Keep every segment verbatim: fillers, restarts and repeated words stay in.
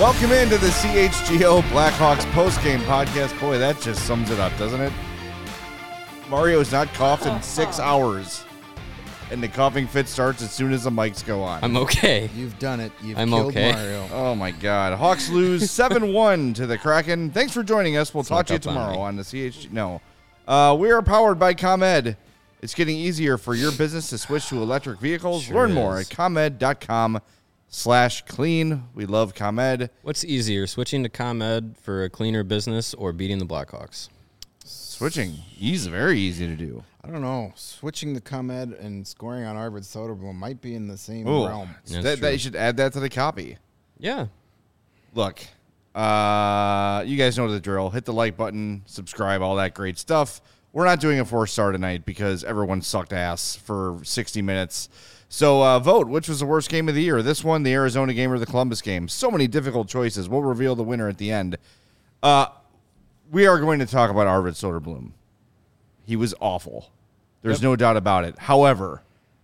Welcome into the C H G O Blackhawks postgame podcast. Boy, that just sums it up, doesn't it? Mario's not coughed in six hours, and the coughing fit starts as soon as the mics go on. I'm okay. You've done it. You've I'm killed okay. Mario. Oh, my God. Hawks lose seven one to the Kraken. Thanks for joining us. We'll talk Snuck to you up on tomorrow me. on the C H G. No. Uh, we are powered by ComEd. It's getting easier for your business to switch to electric vehicles. Sure Learn more is. at ComEd.com slash clean. We love ComEd. What's easier, switching to ComEd for a cleaner business or beating the Blackhawks? Switching. Easy, very easy to do. I don't know. Switching to ComEd and scoring on Arvid Soderblom might be in the same Ooh. realm. That's That, that true. you should add that to the copy. Yeah. Look, uh, you guys know the drill. Hit the like button, subscribe, all that great stuff. We're not doing a four-star tonight because everyone sucked ass for sixty minutes. So uh, vote, which was the worst game of the year? This one, the Arizona game, or the Columbus game? So many difficult choices. We'll reveal the winner at the end. Uh, we are going to talk about Arvid Soderblom. He was awful. There's Yep. no doubt about it. However,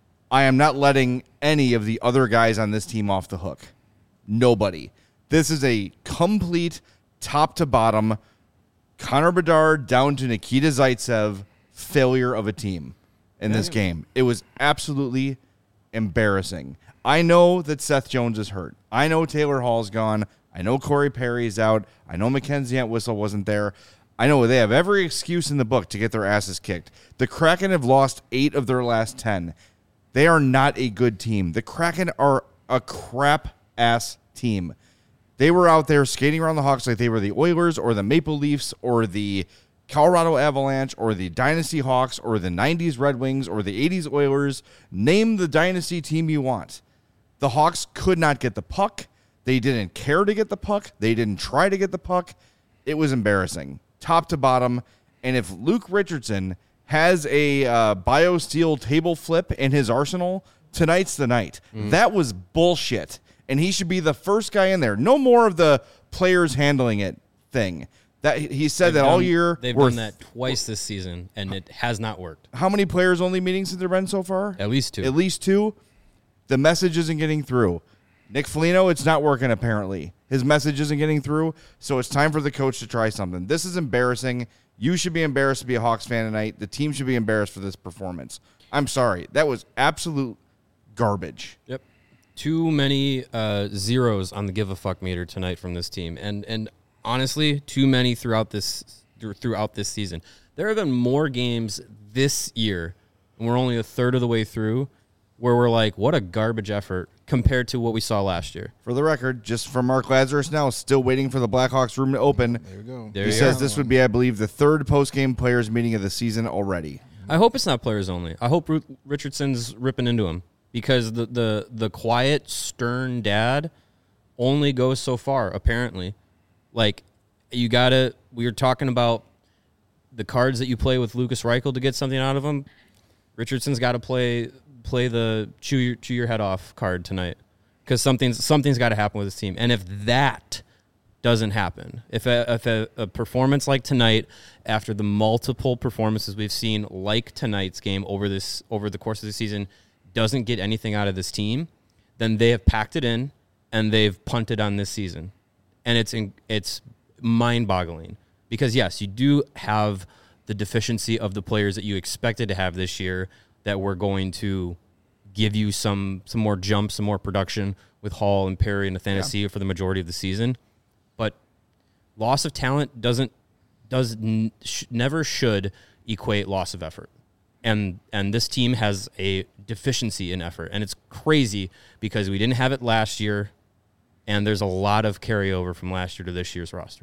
I am not letting any of the other guys on this team off the hook. Nobody. This is a complete top to bottom Connor Bedard down to Nikita Zaitsev failure of a team in this game. It was absolutely embarrassing. I know that Seth Jones is hurt. I know Taylor Hall's gone. I know Corey Perry's out. I know Mackenzie Entwistle wasn't there. I know they have every excuse in the book to get their asses kicked. The Kraken have lost eight of their last ten. They are not a good team. The Kraken are a crap-ass team. They were out there skating around the Hawks like they were the Oilers or the Maple Leafs or the Colorado Avalanche or the Dynasty Hawks or the nineties Red Wings or the eighties Oilers. Name the Dynasty team you want. The Hawks could not get the puck. They didn't care to get the puck. They didn't try to get the puck. It was embarrassing, top to bottom. And if Luke Richardson has a uh, BioSteel table flip in his arsenal, tonight's the night. Mm. That was bullshit. And he should be the first guy in there. No more of the players handling it thing. That he said They've that all done- year. They've worth- done that twice this season, and it has not worked. How many players only meetings have there been so far? At least two. At least two. The message isn't getting through. Nick Foligno, it's not working apparently. His message isn't getting through, so it's time for the coach to try something. This is embarrassing. You should be embarrassed to be a Hawks fan tonight. The team should be embarrassed for this performance. I'm sorry. That was absolute garbage. Yep. Too many uh, zeros on the give a fuck meter tonight from this team, and and honestly, too many throughout this throughout this season. There have been more games this year, and we're only a third of the way through, where we're like, what a garbage effort compared to what we saw last year. For the record, just from Mark Lazarus now, still waiting for the Blackhawks room to open. There we go. There He you says go. this would be, I believe, the third post-game players meeting of the season already. I hope it's not players only. I hope Ru- Richardson's ripping into him, because the, the, the quiet, stern dad only goes so far, apparently. Like, you got to, we were talking about the cards that you play with Lucas Reichel to get something out of him. Richardson's got to play play the chew your, chew your head off card tonight, because something's, something's got to happen with this team. And if that doesn't happen, if a, if a, a performance like tonight, after the multiple performances we've seen like tonight's game over this over the course of the season, doesn't get anything out of this team, then they have packed it in and they've punted on this season. And it's in, it's mind-boggling, because yes, you do have the deficiency of the players that you expected to have this year that were going to give you some some more jumps, some more production with Hall and Perry and Athanasiou for the majority of the season. But loss of talent doesn't does n- sh- never should equate loss of effort. And and this team has a deficiency in effort, and it's crazy because we didn't have it last year, and there's a lot of carryover from last year to this year's roster,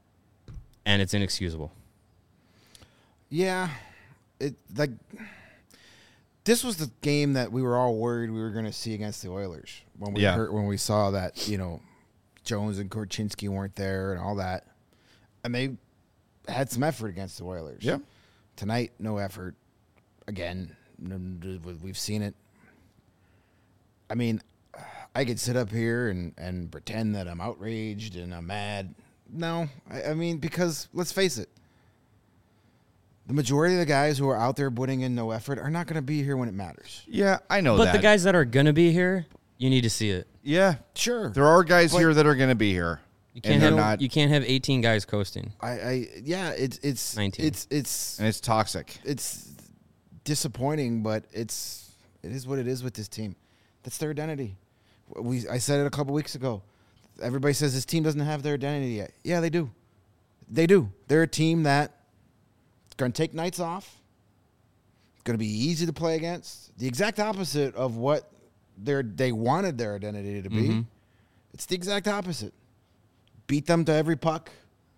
and it's inexcusable. Yeah, it like this was the game that we were all worried we were going to see against the Oilers when we Yeah. heard, when we saw that, you know, Jones and Korchinski weren't there and all that, and they had some effort against the Oilers. Yeah. Tonight, no effort. Again, we've seen it. I mean, I could sit up here and, and pretend that I'm outraged and I'm mad. No, I, I mean, because let's face it, the majority of the guys who are out there putting in no effort are not going to be here when it matters. Yeah, I know But that. the guys that are going to be here, You need to see it. Yeah, Sure. there are guys But- here that are going to be here. You can't And they're have not- you can't have eighteen guys coasting. I, I yeah, it's it's nineteen. it's it's And it's toxic. it's disappointing, but it's it is what it is with this team. That's their identity. We I said it a couple weeks ago. Everybody says this team doesn't have their identity yet. Yeah, they do. They do. They're a team that is going to take nights off. Going to be easy to play against. The exact opposite of what they they wanted their identity to be. Mhm. It's the exact opposite. Beat them to every puck.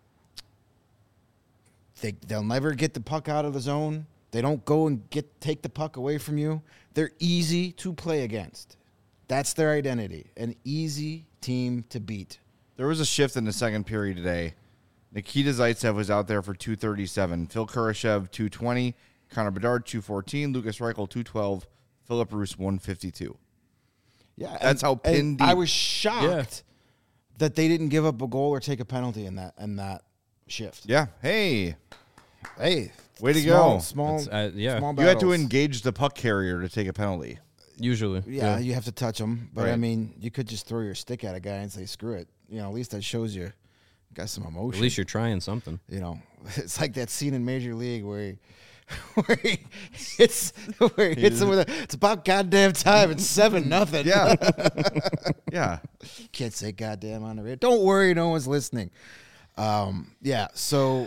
They they'll never get the puck out of the zone. They don't go and get take the puck away from you. They're easy to play against. That's their identity. An easy team to beat. There was a shift in the second period today. Nikita Zaitsev was out there for two thirty-seven. Phil Kurashev, two twenty. Connor Bedard, two fourteen. Lucas Reichel, two twelve. Philip Roos, one fifty-two. Yeah, That's how pin and deep. I was shocked that they didn't give up a goal or take a penalty in that in that shift. Yeah. Hey, Hey, Way to small, go. Small, That's, uh, yeah. small you had to battles. engage the puck carrier to take a penalty. Usually. Yeah, you have to touch them, but I Right. mean, you could just throw your stick at a guy and say "screw it." You know, at least that shows you got some emotion. At least you're trying something. You know, it's like that scene in Major League where he, where he hits where he hits him with a. It's about goddamn time. It's seven nothing. Yeah. yeah. Can't say goddamn on the radio. Don't worry, no one's listening. Um, yeah, so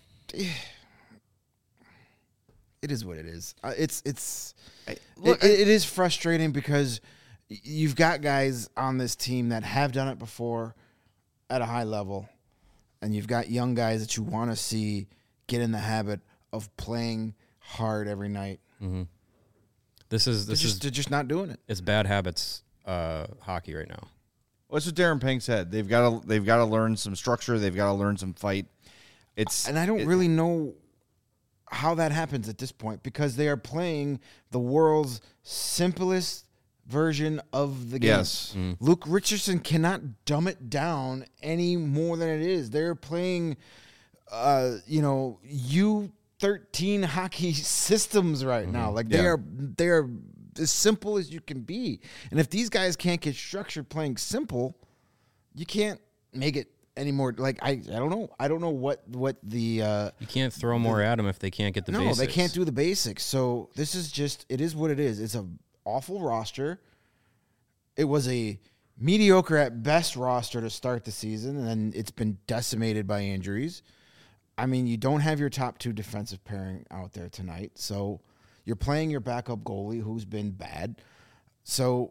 it is what it is. Uh, it's it's look, it, it is frustrating because y- you've got guys on this team that have done it before at a high level, and you've got young guys that you want to see get in the habit of playing hard every night. This is They're this just, is they're just not doing it. it's bad habits uh, hockey right now. Well, that's what Darren Pink said. They've got to they've got to learn some structure. They've got to learn some fight. It's And I don't it- really know how that happens at this point because they are playing the world's simplest version of the game. Yes. Luke Richardson cannot dumb it down any more than it is. They're playing, uh, you know, U thirteen hockey systems right now. Like they Yeah. are, they are as simple as you can be. And if these guys can't get structured playing simple, you can't make it any more. Like I, I don't know. I don't know what what the. Uh, You can't throw more at them if they can't get the no, basics. they can't do the basics. So this is just it is what it is. It's a awful roster. It was a mediocre at best roster to start the season, and then it's been decimated by injuries. I mean, you don't have your top two defensive pairing out there tonight, so you're playing your backup goalie who's been bad. So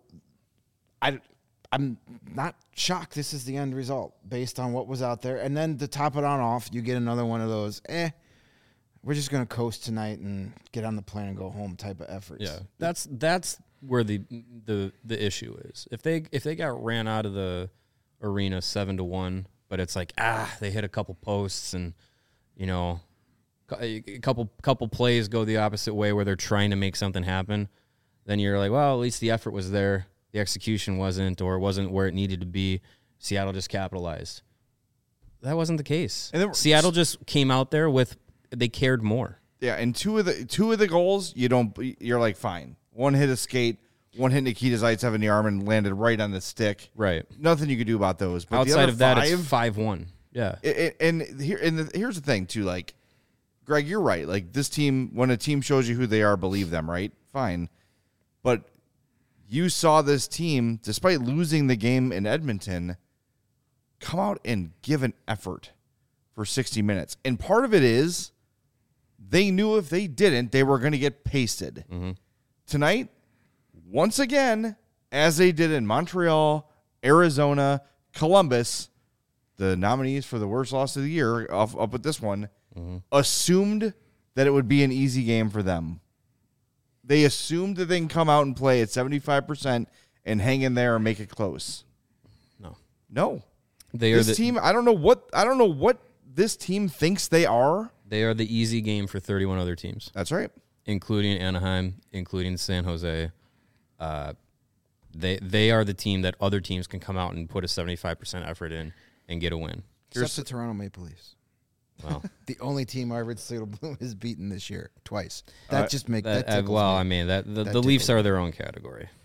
I I'm not shocked this is the end result based on what was out there. And then to top it on off, you get another one of those, eh, we're just going to coast tonight and get on the plane and go home type of efforts. Yeah, that's that's where the the the issue is. If they if they got ran out of the arena seven to one, but it's like ah they hit a couple posts and you know a couple couple plays go the opposite way where they're trying to make something happen, then you're like, well, at least the effort was there, the execution wasn't, or it wasn't where it needed to be. Seattle just capitalized. That wasn't the case. And then- Seattle just came out there with they cared more. Yeah, and two of the two of the goals, you don't. You're like fine. One hit a skate, one hit Nikita Zaitsev in the arm and landed right on the stick. Right. Nothing you could do about those. But the Outside other of that, five, it's five one. Yeah. it- it- and here and the, here's the thing too. Like, Greg, you're right. Like this team, when a team shows you who they are, believe them. Right? Fine. But you saw this team, despite losing the game in Edmonton, come out and give an effort for sixty minutes. And part of it is they knew if they didn't, they were going to get pasted. Tonight, once again, as they did in Montreal, Arizona, Columbus, the nominees for the worst loss of the year, up, up with this one, assumed that it would be an easy game for them. They assumed that they can come out and play at seventy-five percent and hang in there and make it close. No. No. They are This the team, I don't know what I don't know what this team thinks they are. they are the easy game for thirty-one other teams, That's right. including Anaheim, including San Jose. Uh, they they are the team that other teams can come out and put a seventy-five percent effort in and get a win. Except the Toronto Maple Leafs. Well, The only team Arvid Soderblom has beaten this year twice. That Uh, just make that, that, uh, tickles well, me. I mean that the, That the Leafs tickles are their own category.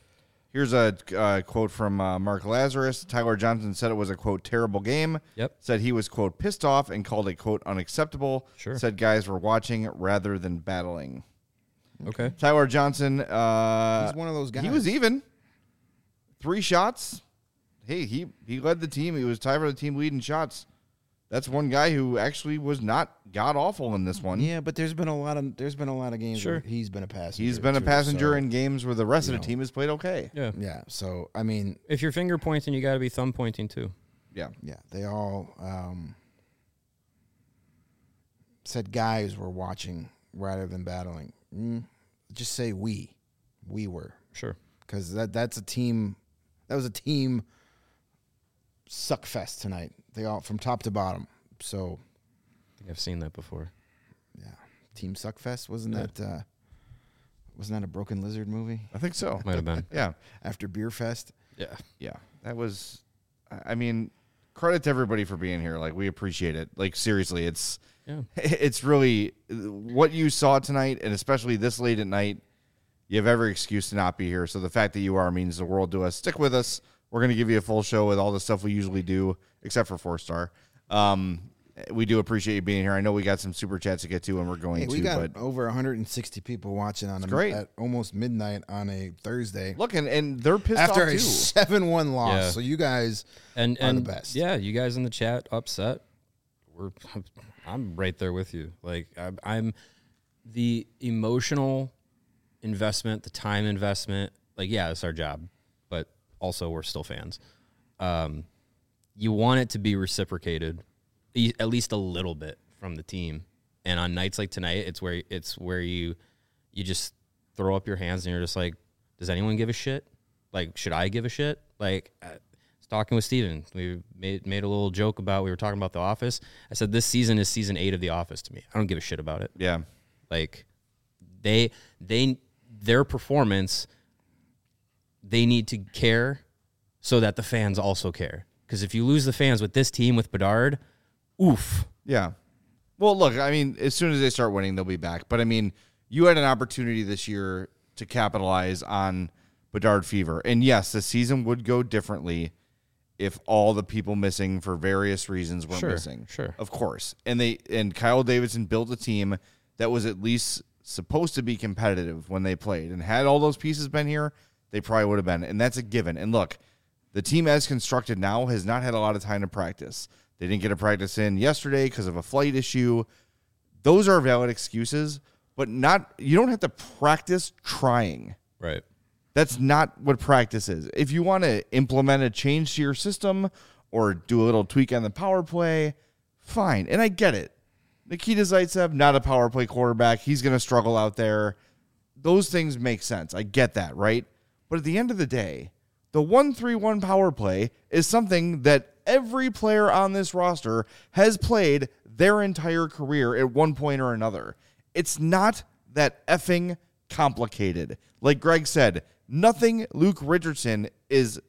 Here's a uh, quote from uh, Mark Lazarus. Tyler Johnson said it was a, quote, terrible game. Yep. Said he was, quote, pissed off and called it, quote, unacceptable. Sure. Said guys were watching rather than battling. Okay. Tyler Johnson. Uh, He's one of those guys. He was even. Three shots. Hey, he, he led the team. He was tied for the team lead in shots. That's one guy who actually was not god awful in this one. Yeah, but there's been a lot of there's been a lot of games Sure. where he's been a passenger. He's been a too, passenger so, in games where the rest of you the know. team has played okay. Yeah. Yeah, so I mean, If you're finger pointing, you got to be thumb pointing too. Yeah. yeah, they all um, said guys were watching rather than battling. Mm, just say we, we were, Sure. because that that's a team. That was a team suck fest tonight. They all from top to bottom. So I think I've seen that before. yeah, team suck fest wasn't Yeah. that uh, wasn't that a Broken Lizard movie I think so. Might have been. Yeah. after Beer Fest? Yeah. Yeah. That was, I mean, credit to everybody for being here. Like, we appreciate it. Like, seriously, it's, Yeah. it's really what you saw tonight, and especially this late at night. You have every excuse to not be here. So the fact that you are means the world to us. Stick with us. We're going to give you a full show with all the stuff we usually do, except for Four Star. Um, we do appreciate you being here. I know we got some super chats to get to, and we're going Hey, we to. got But over one hundred sixty people watching on a, great. at almost midnight on a Thursday look, and, and they're pissed after off a too. seven one loss. Yeah. So you guys And are and the best. yeah, you guys in the chat upset. We're I'm right there with you. Like I'm, I'm the emotional investment, the time investment. Like yeah, it's our job, but also we're still fans. Um, you want it to be reciprocated, e- at least a little bit from the team. And on nights like tonight, it's where it's where you you just throw up your hands and you're just like, does anyone give a shit? Like, should I give a shit? Like. I, Talking with Steven, we made made a little joke about, we were talking about The Office. I said, this season is season eight of The Office to me. I don't give a shit about it. Yeah. Like, they, they, their performance, they need to care so that the fans also care. Because if you lose the fans with this team, with Bedard, oof. Yeah. Well, look, I mean, as soon as they start winning, they'll be back. But, I mean, you had an opportunity this year to capitalize on Bedard fever. And, yes, the season would go differently if all the people missing for various reasons weren't Sure, missing. sure. Of course. And they and Kyle Davidson built a team that was at least supposed to be competitive when they played. And had all those pieces been here, they probably would have been. And that's a given. And, look, the team as constructed now has not had a lot of time to practice. They didn't get a practice in yesterday because of a flight issue. Those are valid excuses, but not. You don't have to practice trying. Right. That's not what practice is. If you want to implement a change to your system or do a little tweak on the power play, fine. And I get it. Nikita Zaitsev, not a power play quarterback. He's going to struggle out there. Those things make sense. I get that, right? But at the end of the day, the one three one power play is something that every player on this roster has played their entire career at one point or another. It's not that effing complicated. Like Greg said, nothing Luke Richardson is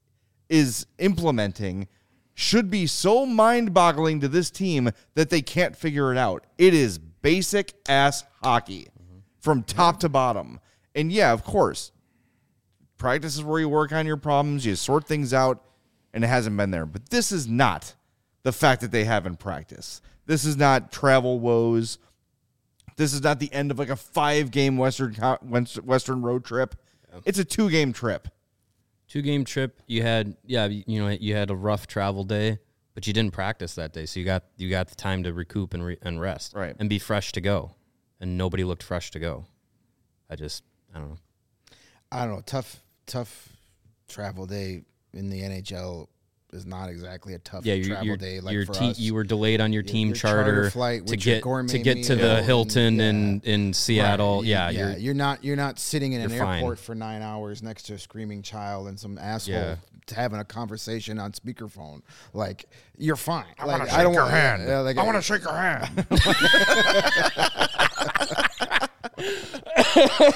is implementing should be so mind-boggling to this team that they can't figure it out. It is basic ass hockey from top to bottom. And yeah, of course, practice is where you work on your problems, you sort things out, and it hasn't been there. But this is not the fact that they haven't practiced. This is not travel woes. This is not the end of like a five-game Western Western road trip. It's a two-game trip. Two game trip. You had, yeah, you know, you had a rough travel day, but you didn't practice that day, so you got you got the time to recoup and re, and rest, Right. and be fresh to go. And nobody looked fresh to go. I just, I don't know. I don't know. Tough, tough travel day in the N H L is not exactly a tough Yeah, your, travel your, day like your for te- us. you were delayed on your Your- team your charter charter, flight to with your get gourmet to get to meal the and- Hilton yeah. in in Seattle. Right. Yeah, yeah, you're you're not you're not sitting in an you're fine. airport for nine hours next to a screaming child and some asshole Yeah. having a conversation on speakerphone. Like you're fine. I like, want to shake don't your want- hand. yeah, like, I want to shake your hand.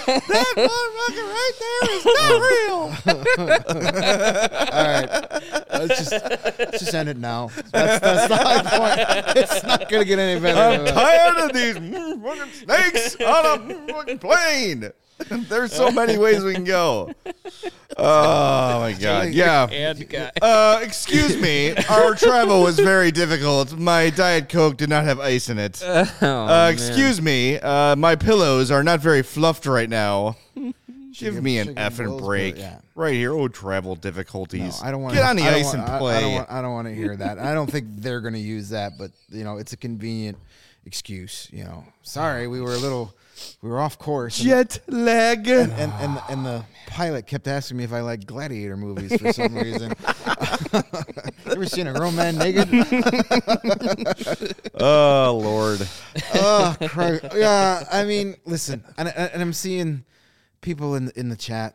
That motherfucker right there is not real. All right. let's just let's just end it now. That's, that's the high point. It's not gonna get any better. I'm tired of these mm, fucking snakes on a mm, fucking plane. There's so many ways we can go. Oh my god! Yeah. And guy. Uh, excuse me. Our travel was very difficult. My Diet Coke did not have ice in it. Oh, Uh, man. excuse me. Uh, my pillows are not very fluffed right now. Give me an Chicken effing Wills, break. but yeah. Right here. Oh, travel difficulties. No, I don't want Get on the I don't ice want- and I- play. I don't want. I don't want to hear that. I don't think they're going to use that, but you know, it's a convenient excuse. You know, sorry, we were a little, we were off course. And, Jet lag. and and and the, and the pilot kept asking me if I like gladiator movies for some reason. Ever seen a grown man naked? Oh Lord. Oh, Christ. Yeah. I mean, listen, and, and I'm seeing people in in the chat.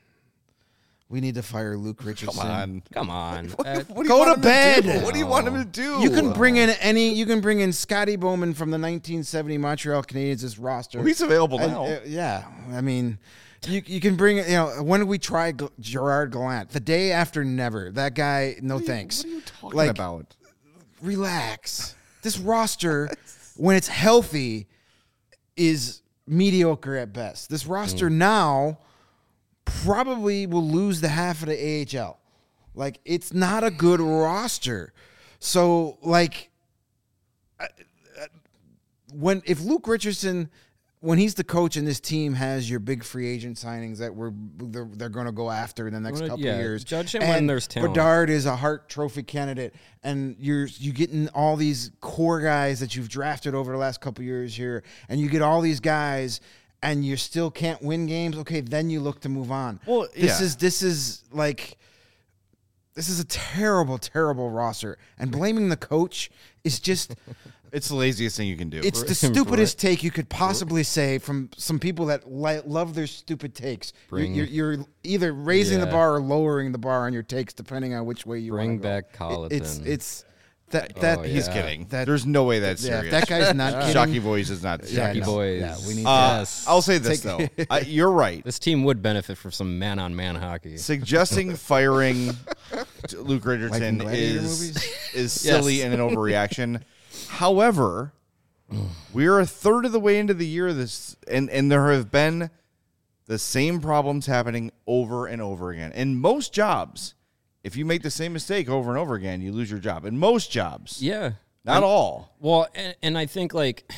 We need to fire Luke Richardson. Come on. Come on. What, Uh, what do go you want to him do? bed. What do you want him to do? You can bring in any. You can bring in Scotty Bowman from the nineteen seventy Montreal Canadiens as roster. Well, he's available And, now. uh, yeah, I mean, you you can bring. You know, when did we try G- Gerard Gallant? The day after never. That guy. No thanks. What are you talking Like, about? Relax. This roster, when it's healthy, is mediocre at best. This roster Mm. now probably will lose the half of the A H L. Like, it's not a good roster. So, like, uh, uh, when if Luke Richardson, when he's the coach and this team has your big free agent signings that we're they're, they're going to go after in the next Well, couple yeah, of years, judge him and when there's talent. Bedard is a Hart Trophy candidate, and you're you getting all these core guys that you've drafted over the last couple of years here, and you get all these guys, and you still can't win games. Okay, then you look to move on. Well, this yeah. is this is like. This is a terrible, terrible roster, and blaming the coach is just. It's the laziest thing you can do. It's the stupidest take you could possibly say from some people that li- love their stupid takes. You're, Bring- you're, you're either raising the Yeah. bar or lowering the bar on your takes, depending on which way you Bring wanna go. back It- Colleton. It's it's that that Oh, He's yeah. kidding. That- There's no way that's yeah. serious. If that guy's not kidding. Shocky Boys is not Yeah, Shocky no. Boys. Yeah, we need Uh, Yes. I'll say this though. I, you're right. This team would benefit from some man-on-man hockey. Suggesting firing Luke Richardson Gladiator is movies? is silly Yes. and an overreaction. However, we're a third of the way into the year. This and and there have been the same problems happening over and over again. In most jobs, if you make the same mistake over and over again, you lose your job. In most jobs, Yeah. not all. Well, and, and I think like,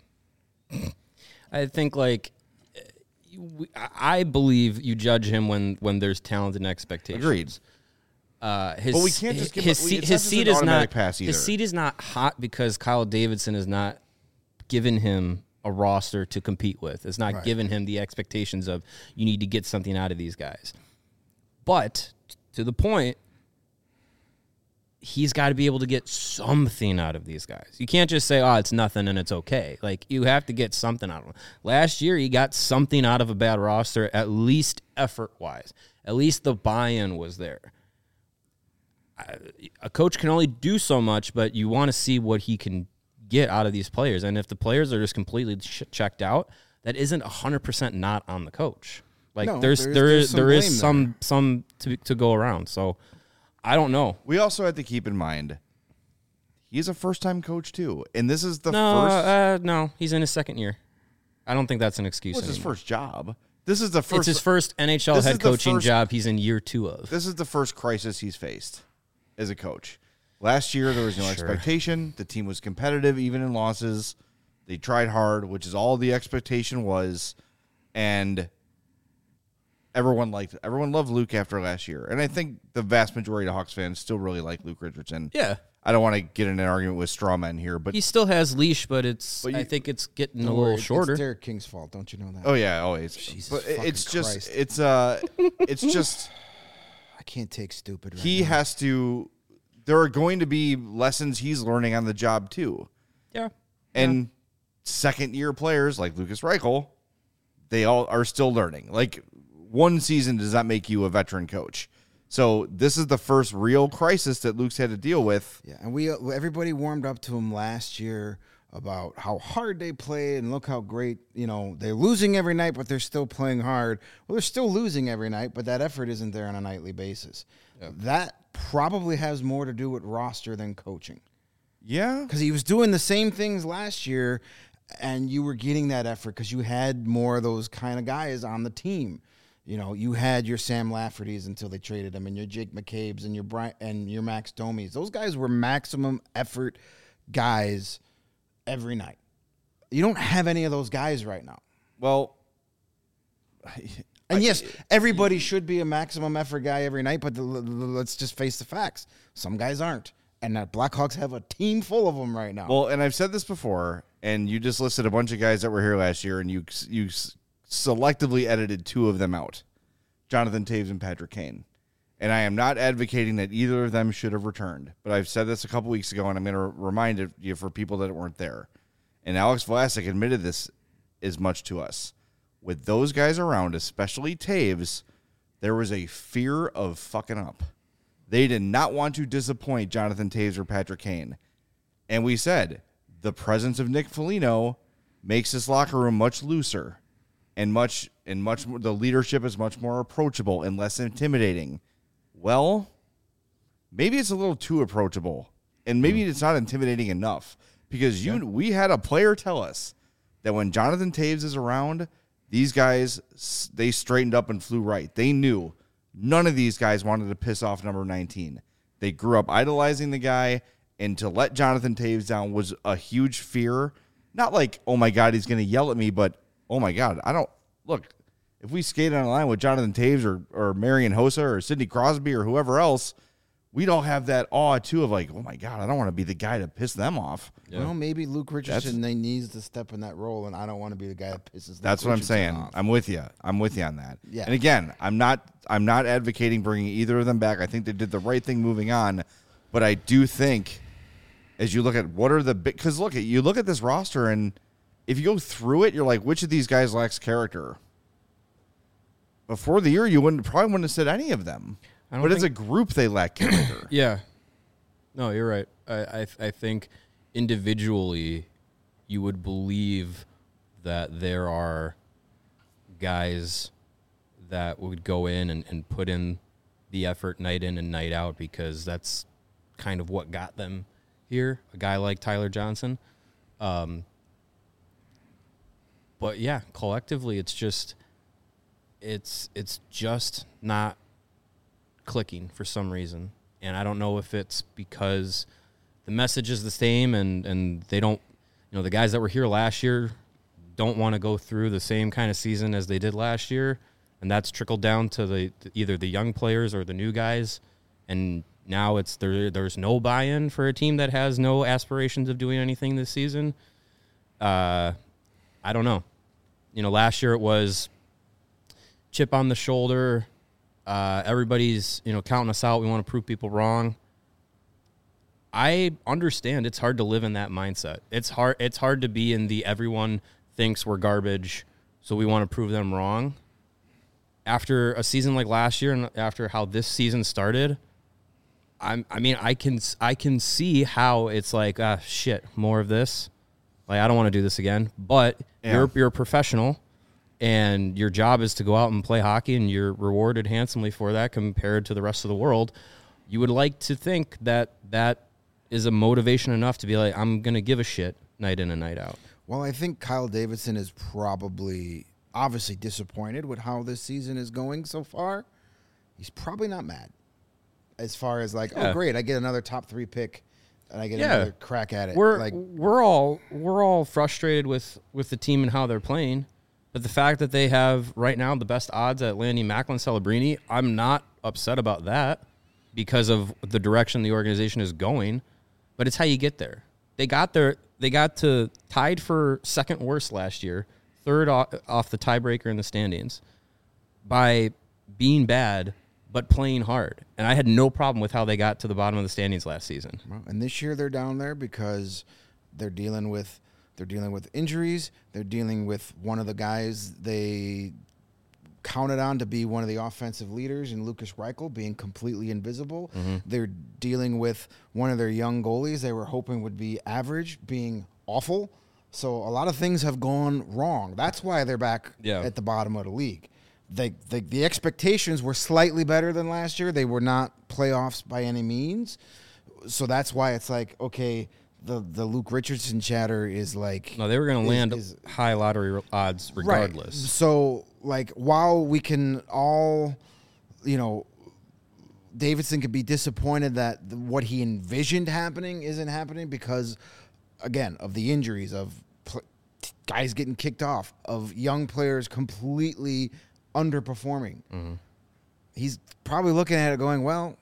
I think like, we- I believe you judge him when when there's talent and expectations. Agreed. Uh, his, But we can't just give his, up- we- seat, it's his not just seat an is not automatic pass either. his seat is not hot because Kyle Davidson is not given him a roster to compete with. It's not Right. giving him the expectations of you need to get something out of these guys. But to the point, he's got to be able to get something out of these guys. You can't just say, "Oh, it's nothing and it's okay." Like you have to get something out of them. Last year, he got something out of a bad roster, at least effort-wise. At least the buy-in was there. I, a coach can only do so much, but you want to see what he can get out of these players. And if the players are just completely ch- checked out, that isn't one hundred percent not on the coach. Like No, there's there's- there there's is some there is blame some some to to go around. So I don't know. We also have to keep in mind he's a first-time coach too, and this is the No, first. uh, no, he's in his second year. I don't think that's an excuse. What's his anymore. first job? This is the first. It's his first N H L This is head the coaching first- job he's in year two of. This is the first crisis he's faced as a coach. Last year, there was no Sure. expectation. The team was competitive, even in losses. They tried hard, which is all the expectation was, and everyone liked it. Everyone loved Luke after last year, and I think the vast majority of Hawks fans still really like Luke Richardson. Yeah. I don't want to get in an argument with straw men here, but He still has leash, but it's But I you- think it's getting a Don't little worry, shorter. It's Derek King's fault. Don't you know that? oh yeah, always. Jesus but fucking it's just Christ. it's uh it's just. I can't take stupid. Right He now. has to. There are going to be lessons he's learning on the job too, Yeah. and second year players like Lucas Reichel, they all are still learning. Like one season does not make you a veteran coach. So this is the first real crisis that Luke's had to deal with. Yeah, and we everybody warmed up to him last year. about how hard they play and look how great, you know, they're losing every night, but they're still playing hard. Well, they're still losing every night, but that effort isn't there on a nightly basis. Yeah. That probably has more to do with roster than coaching. Yeah. Because he was doing the same things last year, and you were getting that effort because you had more of those kind of guys on the team. You know, you had your Sam Lafferty's until they traded him, and your Jake McCabe's and your Brian and your Max Domi's. Those guys were maximum effort guys every night. You don't have any of those guys right now. Well, and yes, everybody should be a maximum effort guy every night, but the, let's just face the facts. Some guys aren't. And the Blackhawks have a team full of them right now. Well, and I've said this before, and you just listed a bunch of guys that were here last year, and you you selectively edited two of them out, Jonathan Toews and Patrick Kane. And I am not advocating that either of them should have returned, but I've said this a couple weeks ago, and I'm going to remind you for people that weren't there. And Alex Vlasic admitted this as much to us. With those guys around, especially Toews, there was a fear of fucking up. They did not want to disappoint Jonathan Toews or Patrick Kane. And we said the presence of Nick Foligno makes this locker room much looser and much and much more, the leadership is much more approachable and less intimidating. Well, maybe it's a little too approachable, and maybe it's not intimidating enough because you yeah. we had a player tell us that when Jonathan Toews is around, these guys, they straightened up and flew right. They knew none of these guys wanted to piss off number nineteen. They grew up idolizing the guy, and to let Jonathan Toews down was a huge fear. Not like, oh, my God, he's going to yell at me, but, oh, my God, I don't – look, if we skated on a line with Jonathan Toews or, or Marian Hossa or Sidney Crosby or whoever else, we'd all have that awe, too, of like, oh, my God, I don't want to be the guy to piss them off. Yeah. Well, maybe Luke Richardson they needs to step in that role, and I don't want to be the guy that pisses Luke That's what Richardson I'm saying. off. I'm with you. I'm with you on that. Yeah. And again, I'm not I'm not advocating bringing either of them back. I think they did the right thing moving on, but I do think as you look at what are the big – because look, you look at this roster, and if you go through it, you're like, which of these guys lacks character? Before the year, you wouldn't probably wouldn't have said any of them. But think, as a group, they lack character. Yeah. No, you're right. I, I I think individually you would believe that there are guys that would go in and, and put in the effort night in and night out because that's kind of what got them here, a guy like Tyler Johnson. Um, but, yeah, collectively it's just it's it's just not clicking for some reason. And I don't know if it's because the message is the same and, and they don't, you know, the guys that were here last year don't want to go through the same kind of season as they did last year. And that's trickled down to the either the young players or the new guys. And now it's there. There's no buy-in for a team that has no aspirations of doing anything this season. Uh, I don't know. You know, last year it was chip on the shoulder. Uh, everybody's, you know, counting us out. We want to prove people wrong. I understand it's hard to live in that mindset. It's hard. It's hard to be in the everyone thinks we're garbage, so we want to prove them wrong. After a season like last year and after how this season started, I'm, I mean, I can I can see how it's like, ah, shit, more of this. Like, I don't want to do this again. But yeah. you're you're a professional. And your job is to go out and play hockey, and you're rewarded handsomely for that compared to the rest of the world. You would like to think that that is a motivation enough to be like, I'm going to give a shit night in and night out. Well, I think Kyle Davidson is probably obviously disappointed with how this season is going so far. He's probably not mad as far as like, yeah. oh, great, I get another top three pick, and I get yeah. another crack at it. We're like, we're all we're all frustrated with, with the team and how they're playing. But the fact that they have right now the best odds at landing Macklin Celebrini, I'm not upset about that because of the direction the organization is going. But it's how you get there. They got there. They got to tied for second worst last year, third off, off the tiebreaker in the standings, by being bad but playing hard. And I had no problem with how they got to the bottom of the standings last season. Well, and this year they're down there because they're dealing with. They're dealing with injuries. They're dealing with one of the guys they counted on to be one of the offensive leaders in Lucas Reichel being completely invisible. Mm-hmm. They're dealing with one of their young goalies they were hoping would be average being awful. So a lot of things have gone wrong. That's why they're back Yeah. at the bottom of the league. They, the the expectations were slightly better than last year. They were not playoffs by any means. So that's why it's like, okay, the, the Luke Richardson chatter is like... No, they were going to is- land is- high lottery odds regardless. Right. So, like, while we can all, you know, Davidson could be disappointed that the, what he envisioned happening isn't happening because, again, of the injuries, of pl- guys getting kicked off, of young players completely underperforming. Mm-hmm. He's probably looking at it going, well,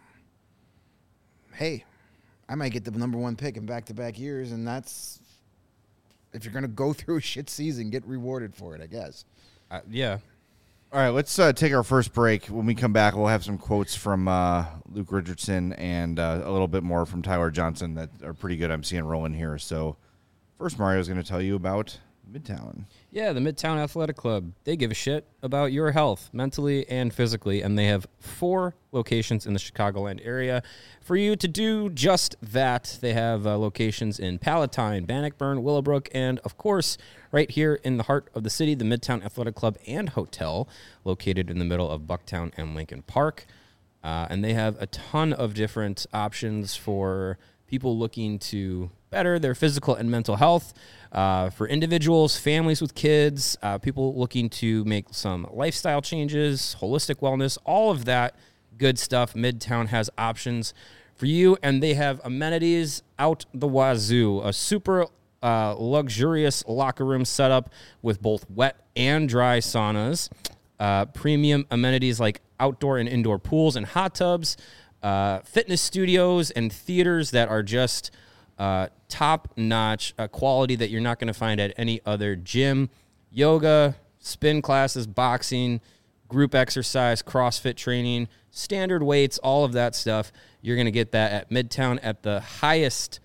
hey, I might get the number one pick in back-to-back years, and that's, if you're going to go through a shit season, get rewarded for it, I guess. Uh, yeah. All right, let's uh, take our first break. When we come back, we'll have some quotes from uh, Luke Richardson and uh, a little bit more from Tyler Johnson that are pretty good. I'm seeing rolling here. So first, Mario's going to tell you about Midtown. Yeah, the Midtown Athletic Club. They give a shit about your health, mentally and physically, and they have four locations in the Chicagoland area for you to do just that. They have uh, locations in Palatine, Bannockburn, Willowbrook, and, of course, right here in the heart of the city, the Midtown Athletic Club and Hotel, located in the middle of Bucktown and Lincoln Park. Uh, and they have a ton of different options for people looking to better their physical and mental health, uh, for individuals, families with kids, uh, people looking to make some lifestyle changes, holistic wellness, all of that good stuff. Midtown has options for you, and they have amenities out the wazoo, a super uh, luxurious locker room setup with both wet and dry saunas, uh, premium amenities like outdoor and indoor pools and hot tubs, uh, fitness studios and theaters that are just uh, top-notch uh, quality that you're not going to find at any other gym. Yoga, spin classes, boxing, group exercise, CrossFit training, standard weights, all of that stuff. You're going to get that at Midtown at the highest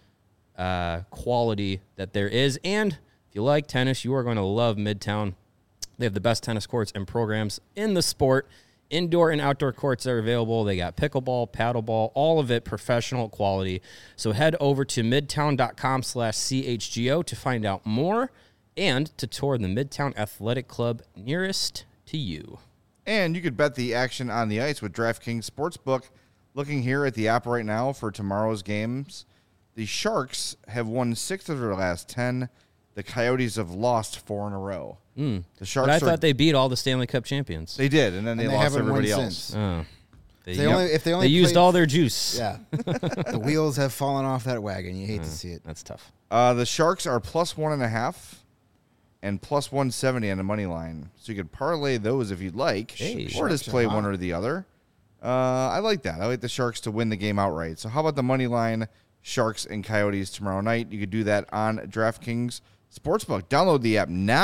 uh, quality that there is. And if you like tennis, you are going to love Midtown. They have the best tennis courts and programs in the sport. Indoor and outdoor courts are available. They got pickleball, paddleball, all of it professional quality. So head over to midtown.com slash CHGO to find out more and to tour the Midtown Athletic Club nearest to you. And you could bet the action on the ice with DraftKings Sportsbook. Looking here at the app right now for tomorrow's games, the Sharks have won six of their last ten. The Coyotes have lost four in a row. Mm. The Sharks But I are, thought they beat all the Stanley Cup champions. they did, and then they, And they lost haven't won everybody else. since. Oh. They, They only- if they only used played- all their juice. Yeah. The wheels have fallen off that wagon. You hate to see it. That's tough. Uh, the Sharks are plus one and a half and plus one seventy on the money line. So you could parlay those if you'd like, Hey, or Sharks just are play hot. one or the other. Uh, I like that. I like the Sharks to win the game outright. So how about the money line, Sharks and Coyotes tomorrow night? You could do that on DraftKings Sportsbook. Download the app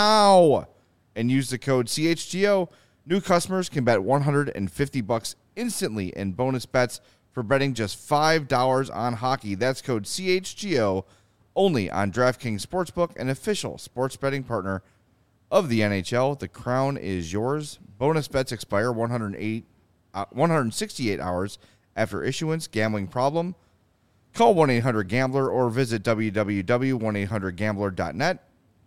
now and use the code C H G O. New customers can bet one hundred fifty bucks instantly in bonus bets for betting just five dollars on hockey. That's code C H G O only on DraftKings Sportsbook, an official sports betting partner of the N H L. The crown is yours. Bonus bets expire one hundred eight, uh, one hundred sixty-eight hours after issuance. Gambling problem? Call one eight hundred gambler or visit w w w dot one eight hundred gambler dot net.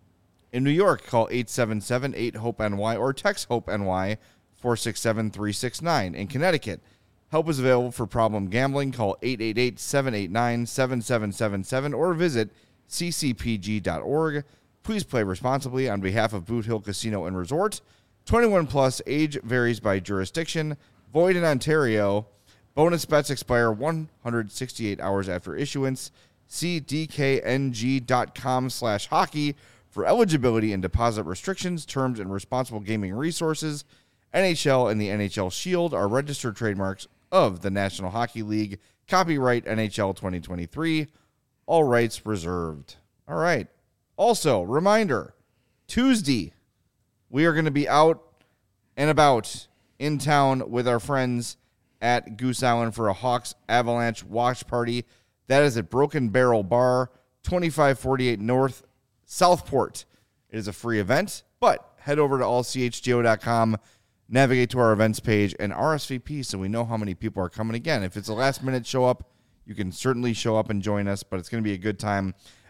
In New York, call eight seven seven eight hope N Y or text HOPE-NY four six seven three six nine. In Connecticut, help is available for problem gambling. Call eight eight eight seven eight nine seven seven seven seven or visit c c p g dot org. Please play responsibly on behalf of Boot Hill Casino and Resort. twenty-one plus, age varies by jurisdiction. Void in Ontario. Bonus bets expire one hundred sixty-eight hours after issuance. See d k n g dot com slash hockey for eligibility and deposit restrictions, terms, and responsible gaming resources. N H L and the N H L Shield are registered trademarks of the National Hockey League. Copyright N H L twenty twenty-three. All rights reserved. All right. Also, reminder, Tuesday, we are going to be out and about in town with our friends at Goose Island for a Hawks Avalanche watch party. That is at Broken Barrel Bar, twenty-five forty-eight North Southport. It is a free event, but head over to all c h g o dot com, navigate to our events page, and R S V P so we know how many people are coming. Again, if it's a last-minute show-up, you can certainly show up and join us, but it's going to be a good time.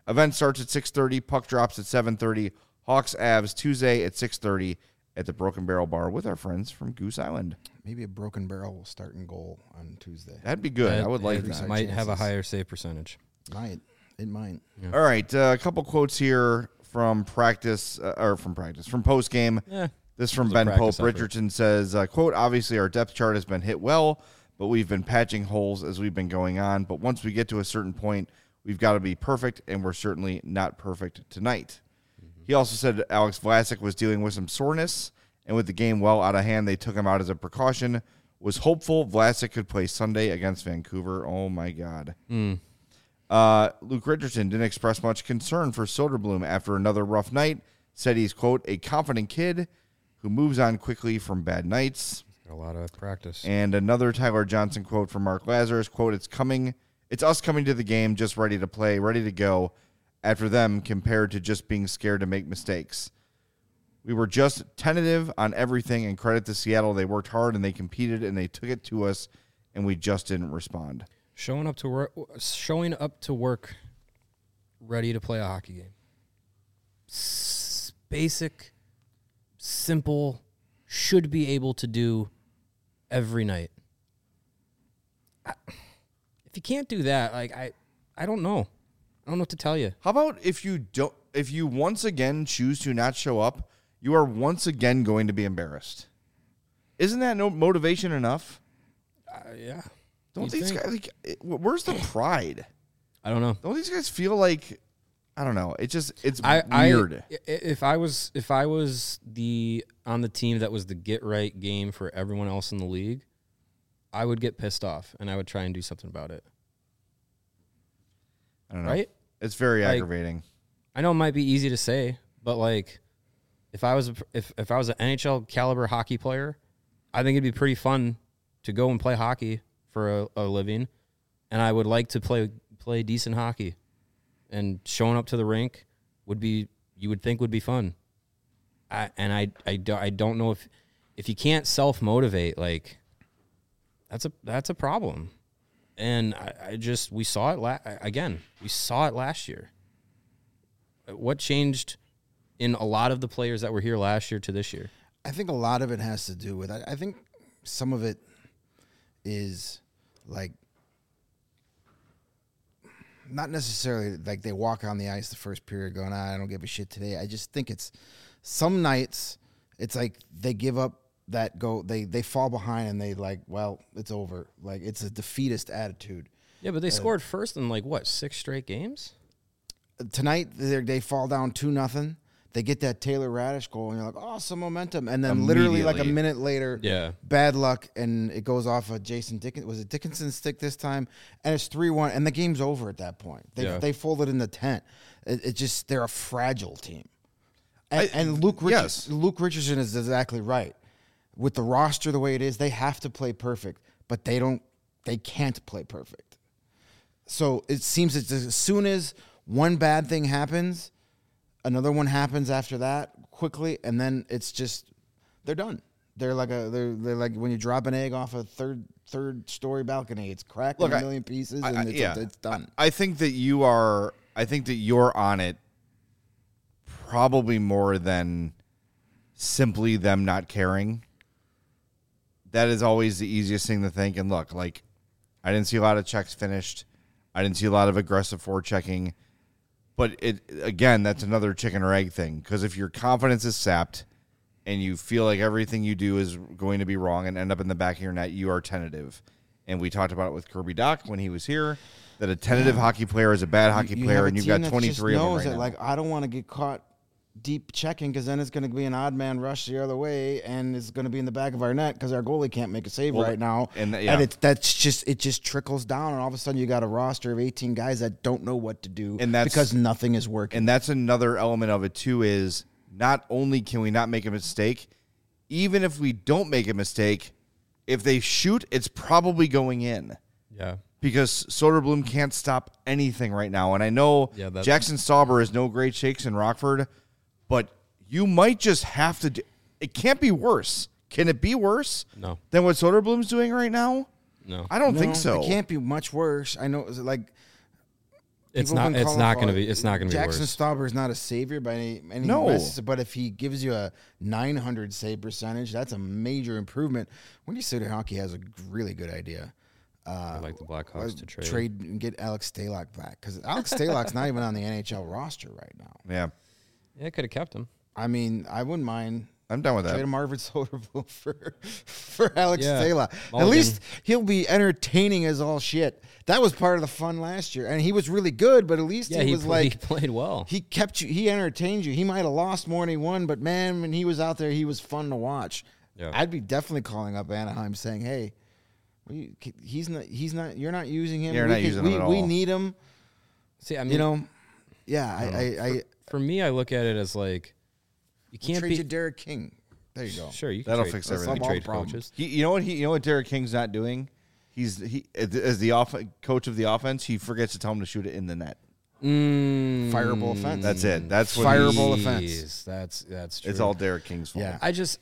Event starts at six thirty. Puck drops at seven thirty. Hawks Avs Tuesday at six thirty at the Broken Barrel Bar with our friends from Goose Island. Maybe a Broken Barrel will start in goal on Tuesday. That'd be good. That- I would like it that. Might have a higher save percentage. Might. It might. Yeah. All right, uh, a couple quotes here from practice, uh, or from practice, from post game. Yeah. This from It was a Ben Pope. practice effort. Richardson says, uh, quote, obviously our depth chart has been hit well, but we've been patching holes as we've been going on. But once we get to a certain point, we've got to be perfect, and we're certainly not perfect tonight. Mm-hmm. He also said Alex Vlasic was dealing with some soreness, and with the game well out of hand, they took him out as a precaution. Was hopeful Vlasic could play Sunday against Vancouver. Oh, my God. Mm. Uh, Luke Richardson didn't express much concern for Soderblom after another rough night. Said he's, quote, a confident kid who moves on quickly from bad nights. Got a lot of practice. And another Tyler Johnson quote from Mark Lazarus, quote, it's coming, it's us coming to the game just ready to play, ready to go after them compared to just being scared to make mistakes. We were just tentative on everything, and credit to Seattle. They worked hard and they competed and they took it to us, and we just didn't respond. Showing up to work, showing up to work, ready to play a hockey game. S- basic, simple, should be able to do every night. I, if you can't do that, like I, I don't know. I don't know what to tell you. How about if you don't, if you once again choose to not show up, you are once again going to be embarrassed. Isn't that no motivation enough? Uh, yeah. Don't You these think? guys like? it- Where's the pride? I don't know. Don't these guys feel like? I don't know. It just it's I, weird. I, if I was if I was the on the team that was the get right game for everyone else in the league, I would get pissed off and I would try and do something about it. I don't know. Right? It's very Like- aggravating. I know it might be easy to say, but like if I was a, if if I was an N H L caliber hockey player, I think it'd be pretty fun to go and play hockey for a, a living, and I would like to play play decent hockey. And showing up to the rink would be, you would think would be fun. I, and I, I, do, I don't know if, if you can't self-motivate, like, that's a, that's a problem. And I, I just, we saw it, la- again, we saw it last year. What changed in a lot of the players that were here last year to this year? I think a lot of it has to do with, I, I think some of it is like, not necessarily like they walk on the ice the first period going, ah, I don't give a shit today. I just think it's some nights it's like they give up that go, they, they fall behind and they like, well, it's over. Like it's a defeatist attitude. Yeah, but they scored first in like what, six straight games? Tonight they they fall down two nothing. They get that Taylor Radish goal, and you're like, oh, some momentum. And then literally like a Immediately. minute later, Yeah. bad luck, and it goes off of Jason Dickinson. Was it Dickinson's stick this time? And it's three one, and the game's over at that point. They Yeah. they folded in the tent. It, it just, they're a fragile team. And, I- and Luke, Richard, yes. Luke Richardson is exactly right. With the roster the way it is, they have to play perfect, but they don't, they can't play perfect. So it seems that as soon as one bad thing happens, another one happens after that quickly, and then it's just they're done. They're like a they're they're like when you drop an egg off a third third story balcony. It's cracked Look, in a I- million pieces, I- and I- it's, yeah. it's done. I think that you are. I think that you're on it. Probably more than simply them not caring. That is always the easiest thing to think. And look, like I didn't see a lot of checks finished. I didn't see a lot of aggressive forechecking. But it again, that's another chicken or egg thing. Because if your confidence is sapped and you feel like everything you do is going to be wrong and end up in the back of your net, you are tentative. And we talked about it with Kirby Doc when he was here, that a tentative hockey player is a bad hockey You player, have a and you've team got that twenty-three just of them knows right that, now. like, I don't want to get caught deep checking because then it's going to be an odd man rush the other way, and it's going to be in the back of our net because our goalie can't make a save Well, right now. and th- yeah. it's that's just it just trickles down, and all of a sudden you got a roster of eighteen guys that don't know what to do, And that's- because nothing is working. And that's another element of it too, is not only can we not make a mistake, even if we don't make a mistake, if they shoot, it's probably going in. Yeah. Because Soderblom can't stop anything right now. And I know Yeah, that- Jackson Stauber is no great shakes in Rockford, but you might just have to do, it can't be worse. Can it be worse No. than what Soderblom's doing right now? No. I don't No, think so. It can't be much worse. I know, it was like It's People have not. been It's calling not for going to it. be. It's not going to be Jackson worse. Stauber is not a savior by any any No. means, but if he gives you a nine hundred save percentage, that's a major improvement. Windy City Hockey has a really good idea. Uh, I'd like the Blackhawks to trade. trade and get Alex Stalock back because Alex Stalock's not even on the N H L roster right now. Yeah, Yeah, could have kept him. I mean, I wouldn't mind. I'm done with that. Trade Marvin Soderblom for for Alex Yeah. Stalock. At Mulligan. least he'll be entertaining as all shit. That was part of the fun last year, and he was really good. But at least Yeah, he he, was pl- like he played well. he kept you. He entertained you. He might have lost more than he won, but man, when he was out there, he was fun to watch. Yeah. I'd be definitely calling up Anaheim saying, "Hey, we, he's not. He's not. You're not using him. You're we not can- using we, him at We all." need him. See, I mean, You know, yeah. I, I, I, for me, I look at it as like you we'll can't trade be you Derek King. There you go. sure. You can That'll trade, fix you can everything. trade Solve all coaches. He, you know what he, you know what Derek King's not doing. He's he as the off, coach of the offense. He forgets to tell him to shoot it in the net. Mm, Fireable offense. That's it. That's what Fireable he- offense. Jeez, That's that's true. It's all Derek King's fault. Yeah. I just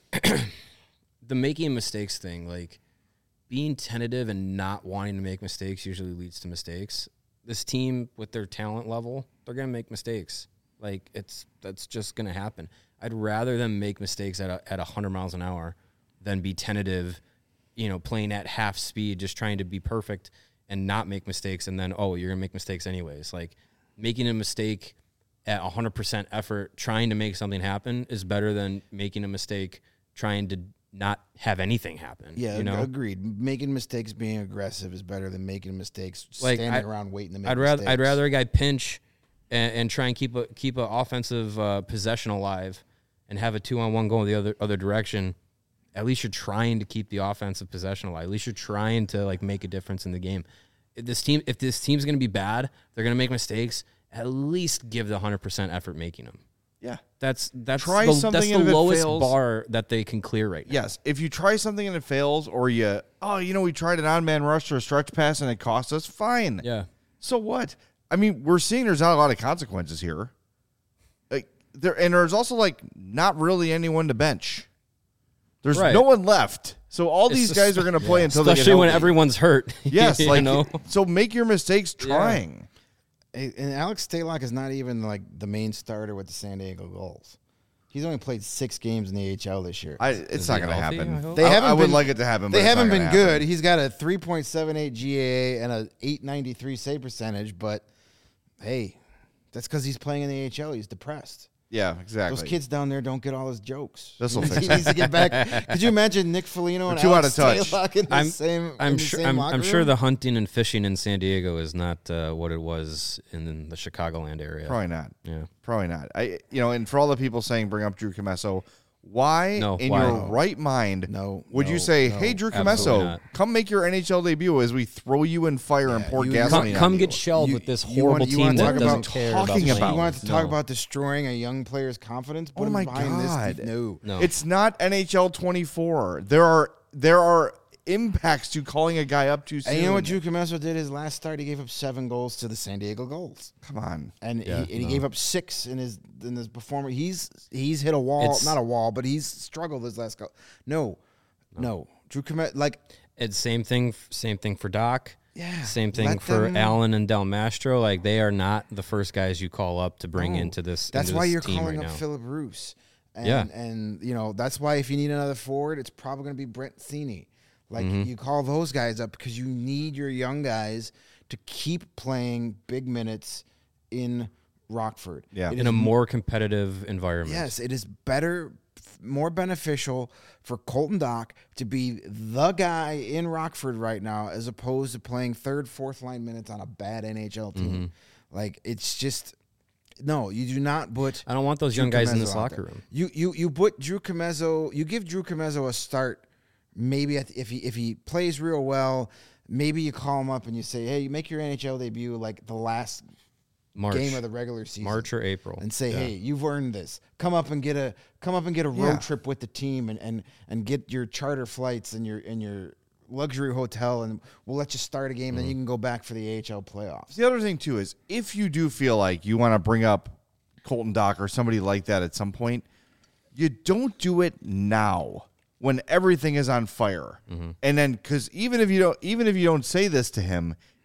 the making mistakes thing, like being tentative and not wanting to make mistakes, usually leads to mistakes. This team, with their talent level, they're gonna make mistakes. Like it's that's just gonna happen. I'd rather them make mistakes at a, at a hundred miles an hour than be tentative, you know, playing at half speed, just trying to be perfect and not make mistakes, and then oh, you're gonna make mistakes anyways. Like making a mistake at one hundred percent effort, trying to make something happen is better than making a mistake trying to not have anything happen. Yeah, you know, agreed. Making mistakes, being aggressive is better than making mistakes, Like, standing I- around waiting to make I'd rather mistakes. I'd rather a guy pinch and, and try and keep a keep an offensive uh, possession alive and have a two on one go the other other direction. At least you're trying to keep the offensive possession alive. At least you're trying to like make a difference in the game. If this team if this team's gonna be bad, they're gonna make mistakes. At least give the hundred percent effort making them. Yeah. That's that's Try the, something that's the and if it lowest fails- bar that they can clear right now. Yes. If you try something and it fails, or you, oh, you know, we tried an on man rush or a stretch pass and it cost us, fine. Yeah. So what? I mean, we're seeing there's not a lot of consequences here. Like there, and there's also like not really anyone to bench. There's Right. no one left. So all It's these just- guys are going to play until they get Especially when healthy. everyone's hurt. Yes, you like know? so make your mistakes trying. Hey, and Alex Stalock is not even like the main starter with the San Diego Gulls. He's only played six games in the A H L this year. I, it's Is not he going to healthy, I happen. hope? They I, haven't I would been- like it to happen. They but it's haven't not been gonna good. happen. He's got a three point seven eight G A A and a eight ninety-three save percentage, but hey, that's because he's playing in the A H L. He's depressed. Yeah, exactly. Those kids down there don't get all his jokes. This'll he fix needs to get back. Could you imagine Nick Foligno and too out Alex of touch. Stalock in the I'm same? I'm in the sure same I'm, locker I'm sure room? the hunting and fishing in San Diego is not uh, what it was in the Chicagoland area. Probably not. Yeah. Probably not. I, you know, and for all the people saying bring up Drew Comesso, why No, in why? your right mind No, would you no, say, no, hey, Drew absolutely Comesso, not. come make your N H L debut as we throw you in fire and Yeah, pour you- gasoline Come, on come you? get shelled You- with this you horrible wanna- you team wanna that talk doesn't about care talking about. about- You want to No. talk about destroying a young player's confidence? Put Oh him my behind God. this. No, No. It's not N H L twenty-four. There are there are impacts to calling a guy up too soon. And you know what Drew Comesso did his last start? He gave up seven goals to the San Diego Gulls, Come on. and Yeah, he, and he no. gave up six in his in his performance. He's he's hit a wall, It's- not a wall, but he's struggled his last go. No, no, Drew Comesso, like It's same thing. Same thing for Doc. Yeah, Same thing let for them- Allen and Del Mastro. Like they are not the first guys you call up to bring no. into this. That's into why this you're team calling right up now. Philip Roos. And, Yeah. and you know that's why if you need another forward, it's probably going to be Brent Thene. Like Mm-hmm. you call those guys up because you need your young guys to keep playing big minutes in Rockford. Yeah. It in is a more competitive environment. Yes, it is better, f- more beneficial for Colton Dock to be the guy in Rockford right now as opposed to playing third, fourth line minutes on a bad N H L team. Mm-hmm. Like it's just no, you do not put. I don't want those Drew young guys in Comezzo this out locker there. room. You you you put Drew Comesso. You give Drew Comesso a start. Maybe at the- if he if he plays real well, maybe you call him up and you say, "Hey, you make your N H L debut like the last March, game of the regular season." March or April, and say, Yeah. "Hey, you've earned this. Come up and get a come up and get a road Yeah. trip with the team, and, and and get your charter flights and your and your luxury hotel, and we'll let you start a game. Mm-hmm. Then you can go back for the A H L playoffs." The other thing, too, is if you do feel like you want to bring up Colton Dock or somebody like that at some point, you don't do it now when everything is on fire. And then, because even if you don't, even if you don't say this to him,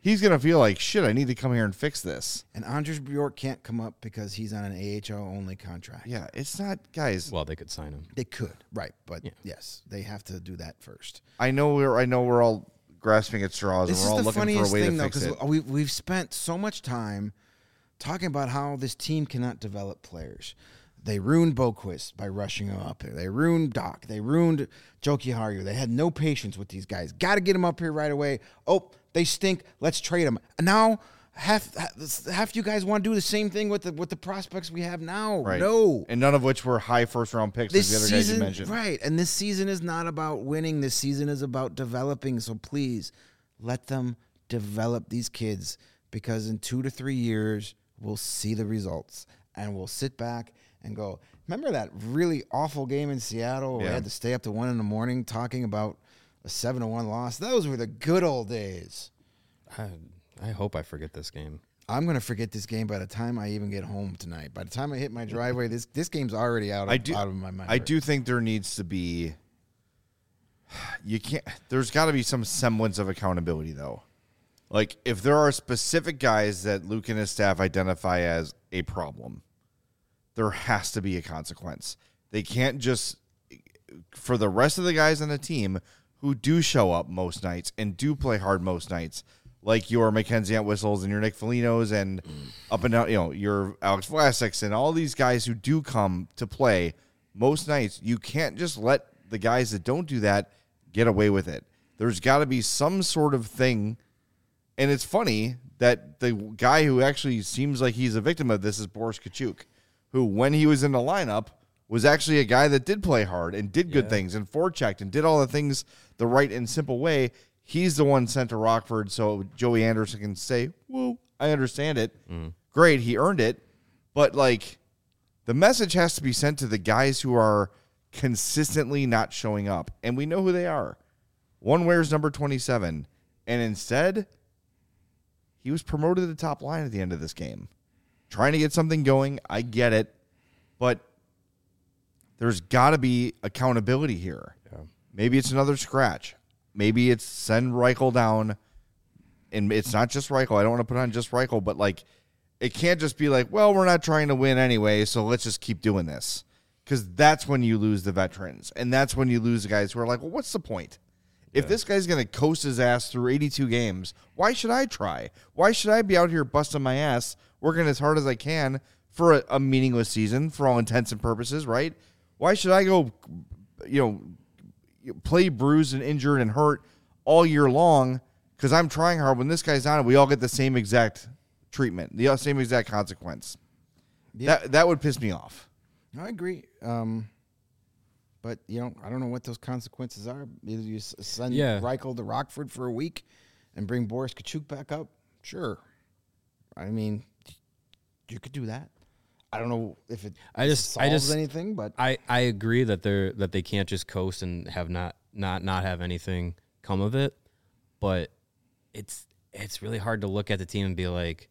he's going to feel like, shit, I need to come here and fix this. And Andres Bjork can't come up because he's on an A H L only contract. Yeah, it's not, guys. Well, they could sign him. They could, right? But Yeah. yes, they have to do that first. I know we're I know we're all grasping at straws This and we're all is the looking for a funniest way thing, to though, fix it. because we've we've spent so much time talking about how this team cannot develop players. They ruined Boquist by rushing him up there. They ruined Doc. They ruined Joki Harju. They had no patience with these guys. Got to get them up here right away. Oh, they stink. Let's trade them. Now, half half you guys want to do the same thing with the with the prospects we have now. Right. No. And none of which were high first round picks This like the other guys you season, mentioned. right? And this season is not about winning. This season is about developing. So please, let them develop these kids, because in two to three years we'll see the results, and we'll sit back and go, remember that really awful game in Seattle where Yeah. we had to stay up to one in the morning talking about a seven to one loss? Those were the good old days. I, I hope I forget this game. I'm gonna forget this game by the time I even get home tonight. By the time I hit my driveway, this this game's already out of, I do, out of my mind. I do think there needs to be. You can't. There's got to be some semblance of accountability, though. Like, if there are specific guys that Luke and his staff identify as a problem, there has to be a consequence. They can't just, for the rest of the guys on the team who do show up most nights and do play hard most nights, like your Mackenzie Whistles and your Nick Folinos and up and down, you know, your Alex Vlasics and all these guys who do come to play most nights, you can't just let the guys that don't do that get away with it. There's got to be some sort of thing. And it's funny that the guy who actually seems like he's a victim of this is Boris Kachuk, who, when he was in the lineup, was actually a guy that did play hard and did good Yeah. things and forechecked and did all the things the right and simple way. He's the one sent to Rockford so Joey Anderson can say, woo, I understand it. Mm. Great, he earned it. But, like, the message has to be sent to the guys who are consistently not showing up. And we know who they are. One wears number twenty-seven. And instead, he was promoted to the top line at the end of this game. Trying to get something going, I get it. But there's got to be accountability here. Yeah. Maybe it's another scratch. Maybe it's send Reichel down. And it's not just Reichel. I don't want to put on just Reichel, but, like, it can't just be like, well, we're not trying to win anyway, so let's just keep doing this. Because that's when you lose the veterans. And that's when you lose the guys who are like, well, what's the point? If this guy's going to coast his ass through eighty-two games, why should I try? Why should I be out here busting my ass, working as hard as I can for a, a meaningless season, for all intents and purposes, right? Why should I go, you know, play bruised and injured and hurt all year long because I'm trying hard when this guy's on it? We all get the same exact treatment, the same exact consequence. Yeah. That that would piss me off. I agree. Um, but, you know, I don't know what those consequences are. Either you s- send Yeah. Reichel to Rockford for a week and bring Boris Kachuk back up. Sure. I mean, you could do that. I don't know if it I just- solves I just- anything, but I, I agree that they're that they can't just coast and have not not not have anything come of it, but it's it's really hard to look at the team and be like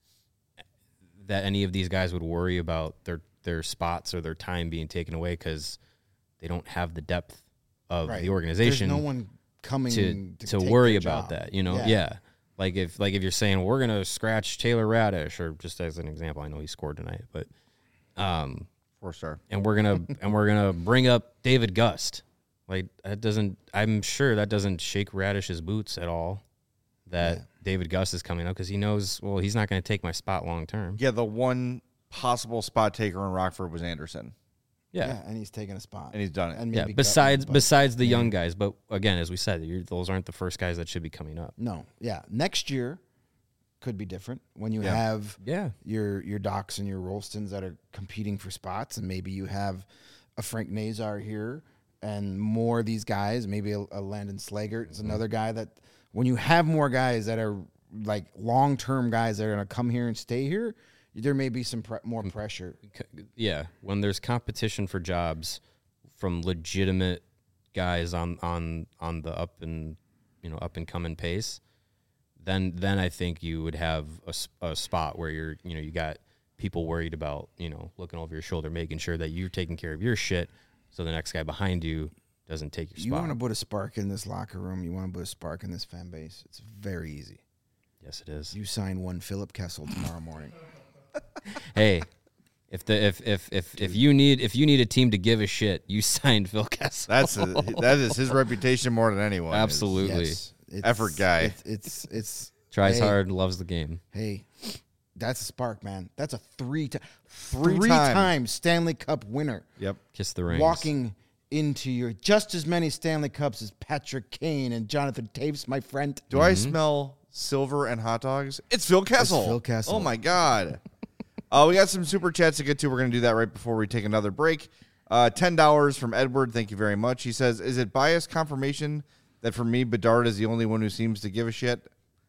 that any of these guys would worry about their their spots or their time being taken away because they don't have the depth of right. the organization There's no one coming to to, to take worry their about job. that. You know, Yeah. yeah. Like if like if you're saying we're gonna scratch Taylor Radish, or just as an example, I know he scored tonight, but um, Four star. and we're gonna and we're gonna bring up David Gust. Like that doesn't. I'm sure that doesn't shake Radish's boots at all. That Yeah. David Gust is coming up because he knows. Well, he's not going to take my spot long term. Yeah, the one possible spot taker in Rockford was Anderson, Yeah. Yeah, and he's taking a spot. and he's done it. And yeah. maybe Besides Gutman, but- besides the young guys, but again, as we said, you're, those aren't the first guys that should be coming up. No, yeah. Next year could be different when you Yeah. have Yeah, your your Docs and your Rolstons that are competing for spots, and maybe you have a Frank Nazar here and more of these guys. Maybe a, a Landon Slagert is another guy that when you have more guys that are like long term guys that are going to come here and stay here, there may be some pre- more pressure. C- yeah. When there's competition for jobs from legitimate guys on on on the up and you know up and coming pace, then then I think you would have a, s- a spot where you're you know you got people worried about you know looking over your shoulder, making sure that you're taking care of your shit, so the next guy behind you doesn't take your You spot. want to put a spark in this locker room. You want to put a spark in this fan base. It's very easy. Yes, it is. You sign one Philip Kessel tomorrow morning. Hey, if the if if if if you need if you need a team to give a shit, you signed Phil Kessel. That's a, that is his reputation more than anyone. Absolutely. Yes, it's- Effort guy. It's it's, it's Tries hey, hard, loves the game. Hey, that's a spark, man. That's a three time three Three-time. time Stanley Cup winner. Yep. Kiss the rings. Walking into your just as many Stanley Cups as Patrick Kane and Jonathan Taves, my friend. Do I smell silver and hot dogs? It's Phil Kessel. Phil Kessel. Oh my God. uh, we got some super chats to get to. We're going to do that right before we take another break. Uh, ten dollars from Edward. Thank you very much. He says, "Is it biased confirmation that for me Bedard is the only one who seems to give a shit?"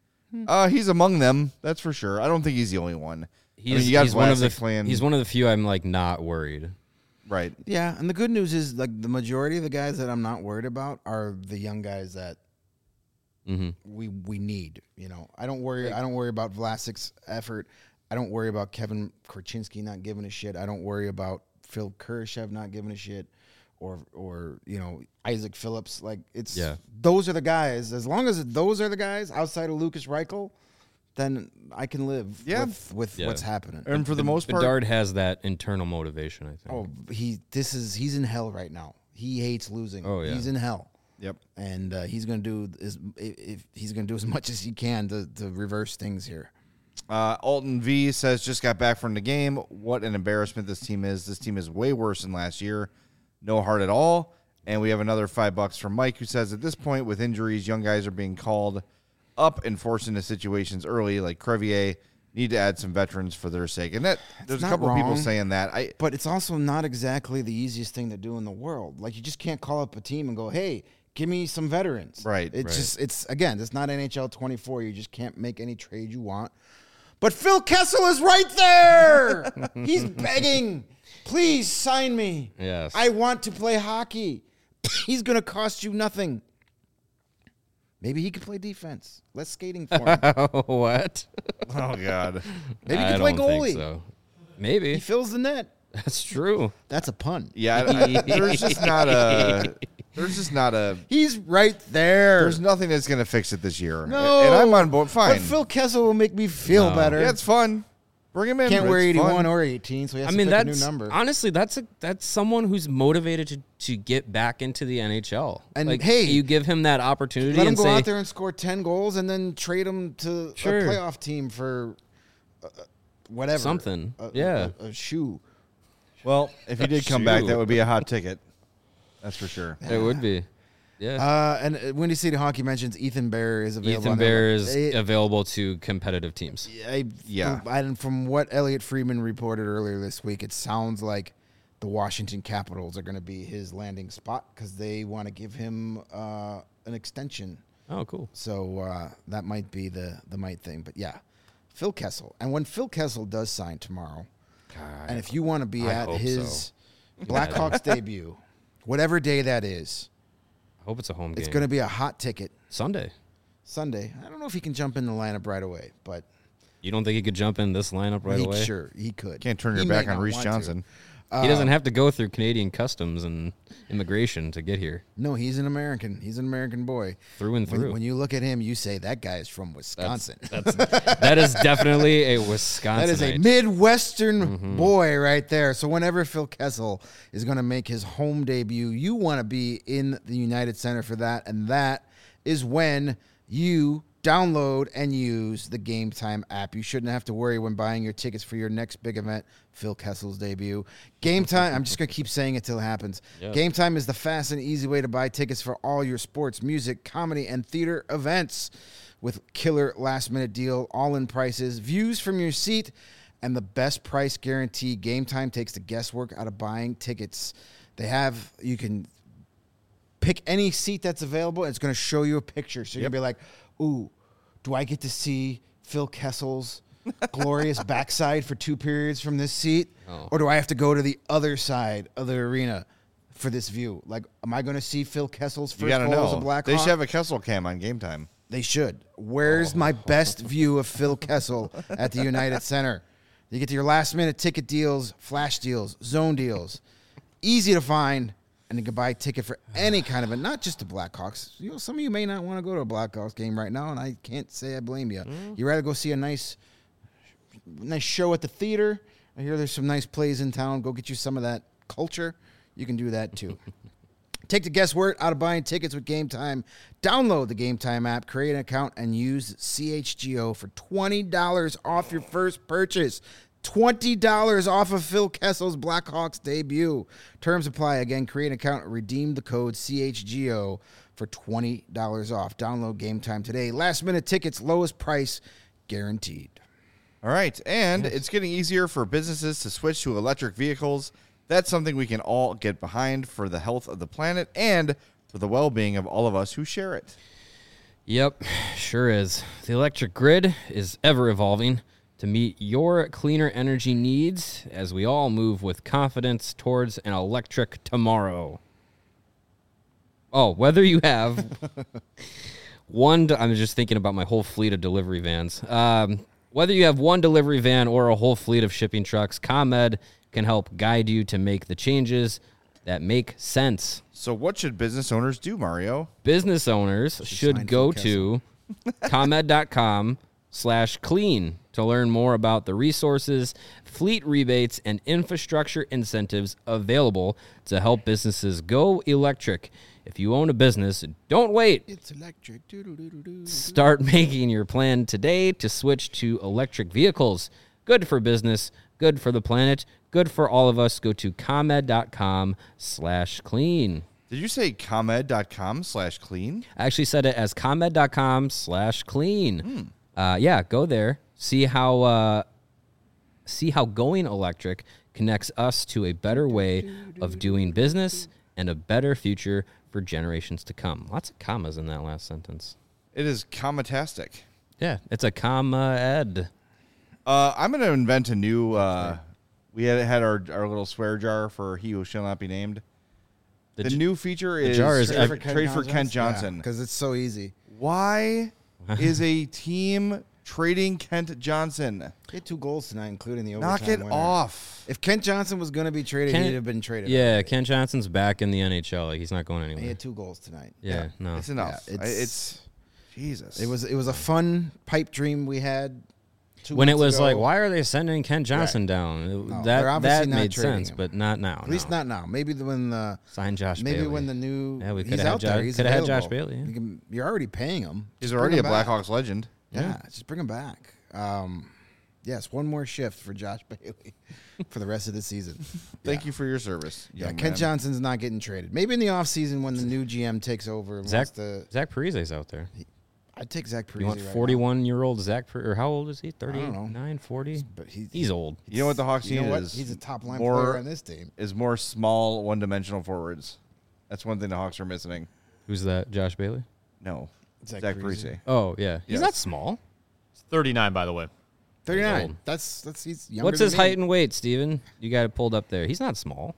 Uh, he's among them. That's for sure. I don't think he's the only one. He's, I mean, you got he's one of the Vlasic playing. he's one of the few I'm like not worried. Right. Yeah, and the good news is like the majority of the guys that I'm not worried about are the young guys that Mm-hmm. we we need. You know, I don't worry. I don't worry about Vlasic's effort. I don't worry about Kevin Korchinski not giving a shit. I don't worry about Phil Kurashev not giving a shit, or or you know Isaac Phillips. Like it's Yeah. those are the guys. As long as those are the guys outside of Lucas Reichel, then I can live Yeah. with with Yeah. what's happening. And for the most part, Bedard has that internal motivation, I think. Oh, he this is he's in hell right now. He hates losing. Oh, yeah. He's in hell. yep. And uh, he's going to do as if he's going to do as much as he can to, to reverse things here. Uh, Alton V says, just got back from the game. What an embarrassment this team is. This team is way worse than last year. No heart at all. And we have another five bucks from Mike, who says, at this point, with injuries, young guys are being called up and forced into situations early, like Crevier. Need to add some veterans for their sake. And that there's a not couple of people wrong. saying that. I But it's also not exactly the easiest thing to do in the world. Like you just can't call up a team and go, "Hey, give me some veterans." Right, It's right. just it's again, it's not N H L twenty-four. You just can't make any trade you want. But Phil Kessel is right there. He's begging, "Please sign me. Yes. I want to play hockey." He's going to cost you nothing. Maybe he could play defense. Less skating for him. What? oh god. Maybe he I could play don't goalie. think so. Maybe. He fills the net. That's true. That's a pun. Yeah, I- I- there's just not a there's just not a He's right there. there's nothing that's gonna fix it this year. No. And I'm on board. Fine. But Phil Kessel will make me feel No. better. yeah, it's fun. Bring him in. Can't but wear it's fun. eighty-one or eighteen, so he has I to mean, pick a that's new number. honestly that's a that's someone who's motivated to, to get back into the N H L. And like, hey, you give him that opportunity Let him and go say, out there and score ten goals and then trade him to Sure. a playoff team for uh, whatever. Something. A, Yeah. A, a shoe. Well, if he did come back, Shoot. that would be a hot ticket. That's for sure. it would be. Yeah. Uh, and uh, Windy City Hockey mentions Ethan Bear is available. Ethan on Bear their- is They- available to competitive teams. I, Yeah. And from what Elliot Friedman reported earlier this week, it sounds like the Washington Capitals are going to be his landing spot because they want to give him uh, an extension. Oh, cool. So uh, that might be the the might thing. But yeah, Phil Kessel. And when Phil Kessel does sign tomorrow, and if you want to be I at hope his so. Blackhawks debut, whatever day that is, I hope it's a home game. it's going to be a hot ticket. Sunday. Sunday. I don't know if he can jump in the lineup right away, but You don't think he could jump in this lineup right he, away? sure he could. Can't turn your He back may on not Reese want to. Johnson. He doesn't have to go through Canadian customs and immigration to get here. No, he's an American. He's an American boy. Through and When, through. when you look at him, you say that guy is from Wisconsin. That's that is definitely a Wisconsin. That is a Midwestern boy right there. So whenever Phil Kessel is going to make his home debut, you want to be in the United Center for that. And that is when you download and use the Game Time app. You shouldn't have to worry when buying your tickets for your next big event, Phil Kessel's debut. Game Time, I'm just going to keep saying it till it happens. Yes. Game Time is the fast and easy way to buy tickets for all your sports, music, comedy, and theater events. With killer last-minute deal, all-in prices, views from your seat, and the best price guarantee. Game Time takes the guesswork out of buying tickets. They have, you can pick any seat that's available, and it's going to show you a picture. So you're going to be like, ooh, do I get to see Phil Kessel's glorious backside for two periods from this seat? Oh. Or do I have to go to the other side of the arena for this view? Like, am I going to see Phil Kessel's You first gotta goal as a know. Blackhawk? They should have a Kessel cam on Game Time. They should. Where's my best view of Phil Kessel at the United Center? You get to your last minute ticket deals, flash deals, zone deals. Easy to find. and you can buy a ticket for any kind of it, not just the Blackhawks. You know, some of you may not want to go to a Blackhawks game right now, and I can't say I blame you. Mm. You'd rather go see a nice, nice show at the theater. I hear there's some nice plays in town. Go get you some of that culture. You can do that too. Take the guesswork out of buying tickets with Game Time. Download the Game Time app, create an account, and use C H G O for twenty dollars off your first purchase. twenty dollars off of Phil Kessel's Blackhawks debut. Terms apply. Again, create an account and redeem the code C H G O for twenty dollars off. Download Game Time today. Last minute tickets, lowest price guaranteed. All right, and yes. It's getting easier for businesses to switch to electric vehicles. That's something we can all get behind for the health of the planet and for the well-being of all of us who share it. Yep, sure is. The electric grid is ever evolving to meet your cleaner energy needs as we all move with confidence towards an electric tomorrow. Oh, whether you have one, I'm just thinking about my whole fleet of delivery vans. Um, whether you have one delivery van or a whole fleet of shipping trucks, ComEd can help guide you to make the changes that make sense. So what should business owners do, Mario? Business owners should go to ComEd.com slash clean to learn more about the resources, fleet rebates, and infrastructure incentives available to help businesses go electric. If you own a business, don't wait. It's electric. Start making your plan today to switch to electric vehicles. Good for business, good for the planet, good for all of us. Go to ComEd.com slash clean. Did you say ComEd.com slash clean? I actually said it as ComEd.com slash clean. Hmm. Uh, yeah, go there. See how uh, see how going electric connects us to a better way of doing business and a better future for generations to come. Lots of commas in that last sentence. It is commatastic. Yeah, it's a comma ed. Uh, I'm going to invent a new. Uh, we had had our our little swear jar for he who shall not be named. The, the j- new feature is, jar is trade, ev- for, trade for Kent Johnson because yeah, it's so easy. Why is a team trading Kent Johnson? He had two goals tonight, including the overtime Knock it winner. Off. If Kent Johnson was going to be traded, Kent, he'd have been traded. Yeah, already. Kent Johnson's back in the N H L. Like, he's not going anywhere. He had two goals tonight. Yeah, yeah. no, it's enough. Yeah, it's, I, it's Jesus. It was it was a fun pipe dream we had. When it was ago. like, why are they sending Kent Johnson right. down? It, No, that that made sense, him. but not now. At least no. not now. Maybe the, when the sign Josh. Maybe Bailey. when the new yeah, we could he's have out Josh, there. He's could have had available. Josh Bailey. Yeah. You can, you're already paying him. He's Just already a bring him back. Blackhawks legend. Yeah, Yeah. just bring him back. Um, yes, one more shift for Josh Bailey for the rest of the season. Thank yeah. you for your service. Yeah, Kent man. Johnson's not getting traded. Maybe in the offseason when the new G M takes over. And Zach to, Zach Parise's out there. He, I'd take Zach Parise. You want right forty-one-year-old Zach Parise, or how old is he? thirty-nine, forty? But he's, he's old. You know what the Hawks you need know what? is He's a top line more, player on this team. Is more small one-dimensional forwards. That's one thing the Hawks are missing. Who's that? Josh Bailey? No, Zach, Zach Parise. Parise. Oh yeah, he's Yes. not small. He's thirty-nine, by the way. thirty-nine. old. That's that's he's younger What's than his me. height and weight, Steven? You got it pulled up there. He's not small.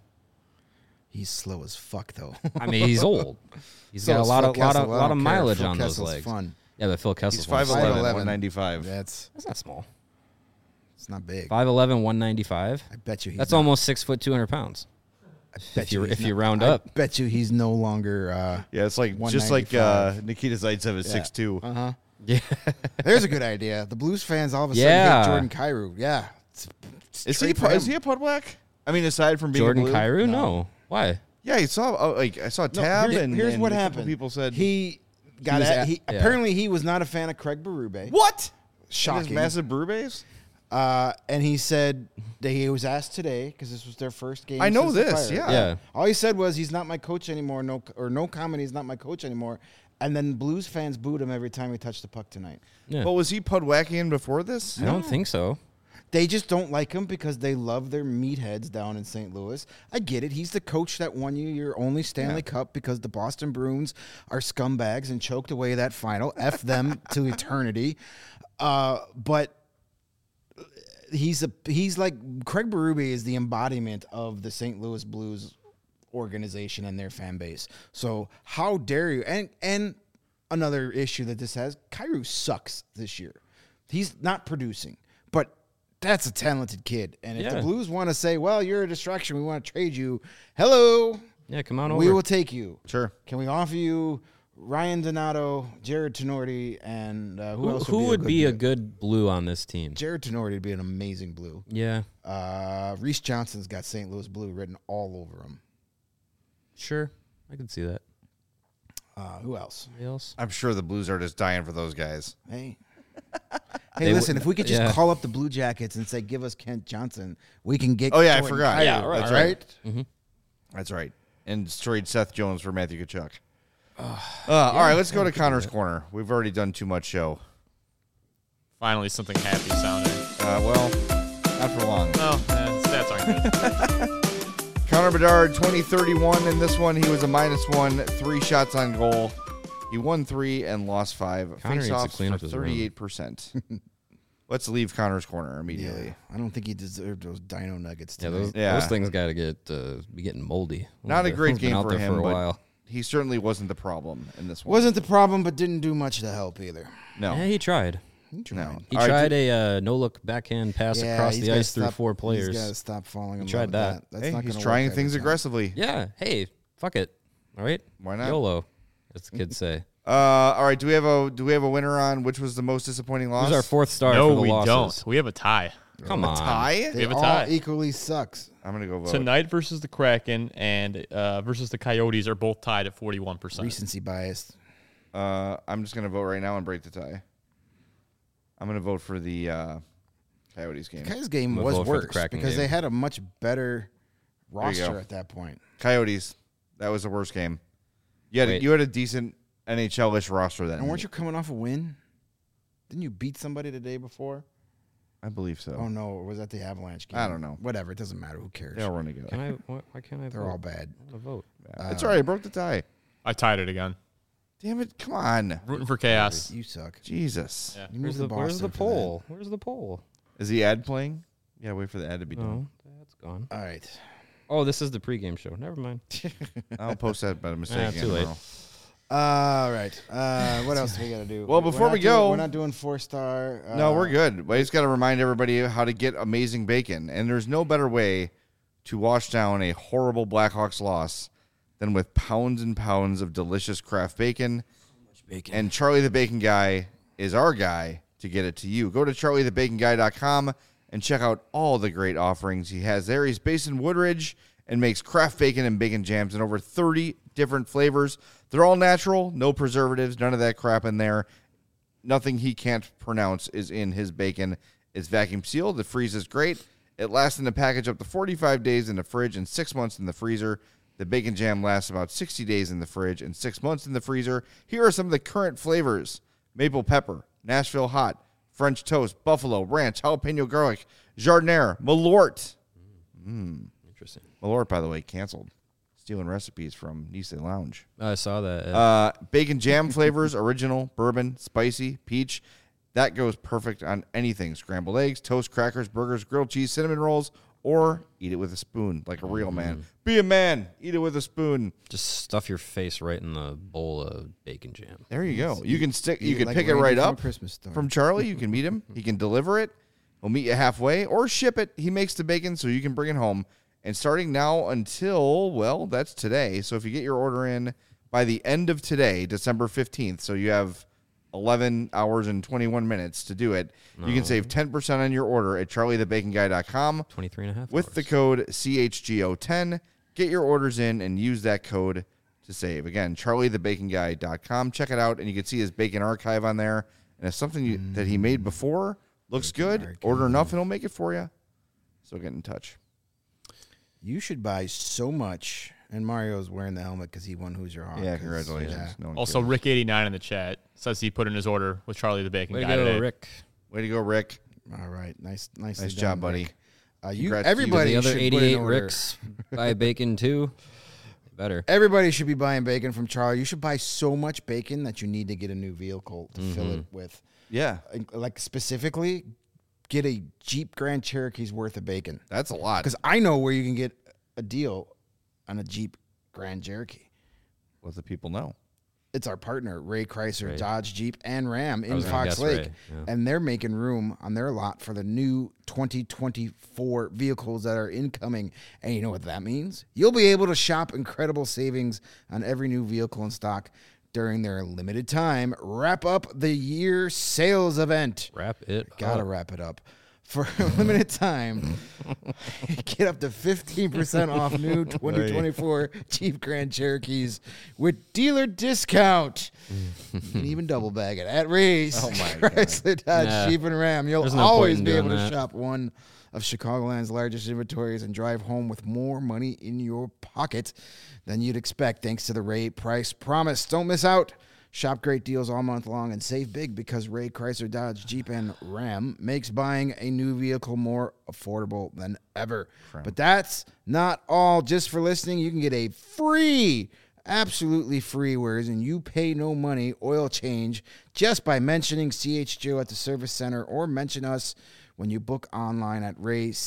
He's slow as fuck though. I mean, he's old. He's So got a is lot Phil of lot Kessel. of I lot don't of care. mileage Phil on those Kessel's legs. Fun. Yeah, but Phil Kessel's He's five eleven, five eleven. one ninety-five. That's That's not small. it's not big. five eleven, one ninety-five. I bet you he's That's not, almost six foot, two hundred pounds. I bet if you he's if you not- round I up. bet you he's no longer. Uh Yeah, it's like just like uh, one ninety-five. Nikita Zaitsev is Yeah. six two. Uh huh. Yeah. There's a good idea. The Blues fans all of a sudden Yeah. hate Jordan Kyrou. Yeah. It's, it's Is he trade for is him. he a Pud Black? I mean, aside from being Jordan a blue? Kyrou? No. No. Why? Yeah, he saw uh, like I saw No, Tab here's, and here's and what a couple happened. People said he got was at, at- he yeah. apparently he was not a fan of Craig Berube. what? Shocking. His massive brew base. Uh, and he said that he was asked today because this was their first game. I know since the this, fire. yeah. Yeah. All he said was he's not my coach anymore. No, or no comment. He's not my coach anymore. And then Blues fans booed him every time he touched the puck tonight. Yeah. But was he Pudwackian before this? I don't think so. They just don't like him because they love their meatheads down in Saint Louis. I get it. He's the coach that won you your only Stanley Yeah. Cup because the Boston Bruins are scumbags and choked away that final. F them to eternity. Uh, but he's a he's like Craig Berube is the embodiment of the Saint Louis Blues organization and their fan base. So how dare you? And and another issue that this has, Kyrou sucks this year. He's not producing, but that's a talented kid. And if Yeah. the Blues want to say, well, you're a distraction, we want to trade you, hello, Yeah, come on over. We will take you. Sure. Can we offer you Ryan Donato, Jared Tenorti, and uh, who, who else who would would be a good good blue on this team? Jared Tenorti would be an amazing blue. Yeah, Uh, Reese Johnson's got Saint Louis blue written all over him. sure. I can see that. Uh, who else? Anybody else? I'm sure the Blues are just dying for those guys. Hey. Hey, They listen, would- if we could just yeah. call up the Blue Jackets and say, give us Kent Johnson, we can get Oh, yeah, I Jordan forgot. Kyrou, Yeah, all right, right? right. Mm-hmm. That's right. And trade Seth Jones for Matthew Tkachuk. Uh, all right, let's go to Connor's Corner. We've already done too much show. Finally, something happy sounding. Uh, well, not for long. Oh, eh, stats aren't good. Connor Bedard, twenty thirty-one. In this one, he was a minus one, three shots on goal. He won three and lost five. Connor needs to Face-offs clean for up his room. thirty-eight percent. Let's leave Connor's Corner immediately. Yeah, I don't think he deserved those Dino Nuggets Yeah, tonight. those, Yeah. those things got to get uh, be getting moldy. Not a They've great been game out for there him, for a but while. he certainly wasn't the problem in this one. Wasn't the problem, but didn't do much to help either. No. Yeah, he tried. He tried. No. He All right, tried do- a uh, no look backhand pass Yeah, across he's the gotta ice through stop- four players. He's got to stop falling in love tried with that. that. That's Hey, not he's gonna trying work every things time. aggressively. Yeah. Hey, fuck it. All right. Why not? YOLO, as the kids say. Uh, all right. Do we have a do we have a winner on which was the most disappointing loss? Who's our fourth star no, for the we losses? don't. We have a tie. Come A on. tie? They have a all tie. equally sucks. I'm gonna go vote. Tonight versus the Kraken and uh, versus the Coyotes are both tied at forty-one percent. Recency bias. Uh, I'm just gonna vote right now and break the tie. I'm gonna vote for the uh, Coyotes game. Kai's game I'm gonna was vote for the worse Kraken because game. they had a much better you roster go. at that point. Coyotes. That was the worst game. You had Wait. you had a decent N H L-ish roster then. And weren't you coming off a win? Didn't you beat somebody the day before? I believe so. Oh, no. Or was that the Avalanche game? I don't know. Whatever. It doesn't matter. Who cares? They all run together. Can I? Why, why can't I They're vote? all bad. I want to vote. Yeah. It's all right. I broke the tie. I tied it again. Damn it! Come on, Rooting for chaos. You suck. Jesus. Yeah. You Where's moved the, to where's the Boston for poll? Where's the poll? Is the ad playing? Yeah, wait for the ad to be No, done. that's gone. that. All right. Oh, this is the pregame show. Never mind. I'll post that by mistake. Ah, again too late. tomorrow. All right. Uh, what else do we got to do? Well, We're before not we doing- go- we're not doing four star. Uh, No, we're good. We just got to remind everybody how to get amazing bacon. And there's no better way to wash down a horrible Blackhawks loss than with pounds and pounds of delicious craft bacon. Bacon. And Charlie the Bacon Guy is our guy to get it to you. Go to charlie the bacon guy dot com and check out all the great offerings he has there. He's based in Woodridge and makes craft bacon and bacon jams in over thirty different flavors. They're all natural, no preservatives, none of that crap in there. Nothing he can't pronounce is in his bacon. It's vacuum sealed. It freezes great. It lasts in the package up to forty-five days in the fridge and six months in the freezer. The bacon jam lasts about sixty days in the fridge and six months in the freezer. Here are some of the current flavors: maple pepper, Nashville hot, French toast, buffalo, ranch, jalapeno garlic, jardiniere, Malort. Interesting. Malort, by the way, canceled. Stealing recipes from Nice Lounge. I saw that. uh, Uh, bacon jam flavors, original, bourbon, spicy, peach. That goes perfect on anything. Scrambled eggs, toast, crackers, burgers, grilled cheese, cinnamon rolls, or eat it with a spoon like a real man. Be a man. Eat it with a spoon. just stuff your face right in the bowl of bacon jam. There you go. You can stick. You Eat can like pick it Randy right from A up Christmas Story. from Charlie. You can meet him. He can deliver it. He'll meet you halfway or ship it. He makes the bacon so you can bring it home. And starting now until, well, that's today. So if you get your order in by the end of today, December fifteenth, so you have eleven hours and twenty-one minutes to do it, you can save ten percent on your order at charlie the bacon guy dot com twenty-three and a half with the hours. code C H G O ten. Get your orders in and use that code to save. Again, charlie the bacon guy dot com. Check it out, and you can see his bacon archive on there. And if something you, that he made before looks good, order enough, and he'll make it for you. So get in touch. You should buy so much. And Mario's wearing the helmet because he won Who's Your Hawk. Yeah, 'cause- congratulations. yeah. No one Also, cares. Rick eighty-nine in the chat says he put in his order with Charlie the Bacon Way to Guy go, today. Rick. Way to go, Rick. All right. Nice, nicely Nice done, job, buddy. Rick. Uh, you, Congrats to you. everybody The other should put in eighty-eight order. Ricks buy bacon too. Better. Everybody should be buying bacon from Charlie. You should buy so much bacon that you need to get a new vehicle to fill it with. Yeah, Like specifically, get a Jeep Grand Cherokee's worth of bacon. that's a lot. Because I know where you can get a deal on a Jeep Grand Cherokee. Let the people know. It's our partner, Ray Chrysler, Ray. Dodge, Jeep, and Ram in was gonna Fox guess Lake. Ray, yeah. And they're making room on their lot for the new twenty twenty-four vehicles that are incoming. And you know what that means? You'll be able to shop incredible savings on every new vehicle in stock during their limited time wrap up the year sales event. Wrap it Gotta up. wrap it up. For a limited time, get up to fifteen percent off new twenty twenty-four Jeep Grand Cherokees with dealer discount. You can even double bag it at Ray's. Oh, my God. Chrysler, Dodge, Nah. Jeep, and Ram. You'll There's no point always in be doing able to that. shop one of Chicagoland's largest inventories and drive home with more money in your pocket than you'd expect thanks to the Ray Price Promise. Don't miss out. Shop great deals all month long and save big because Ray Chrysler, Dodge, Jeep, and Ram makes buying a new vehicle more affordable than ever. But that's not all. Just for listening, you can get a free, absolutely free, whereas and you pay no money, oil change just by mentioning C H G O at the service center or mention us when you book online at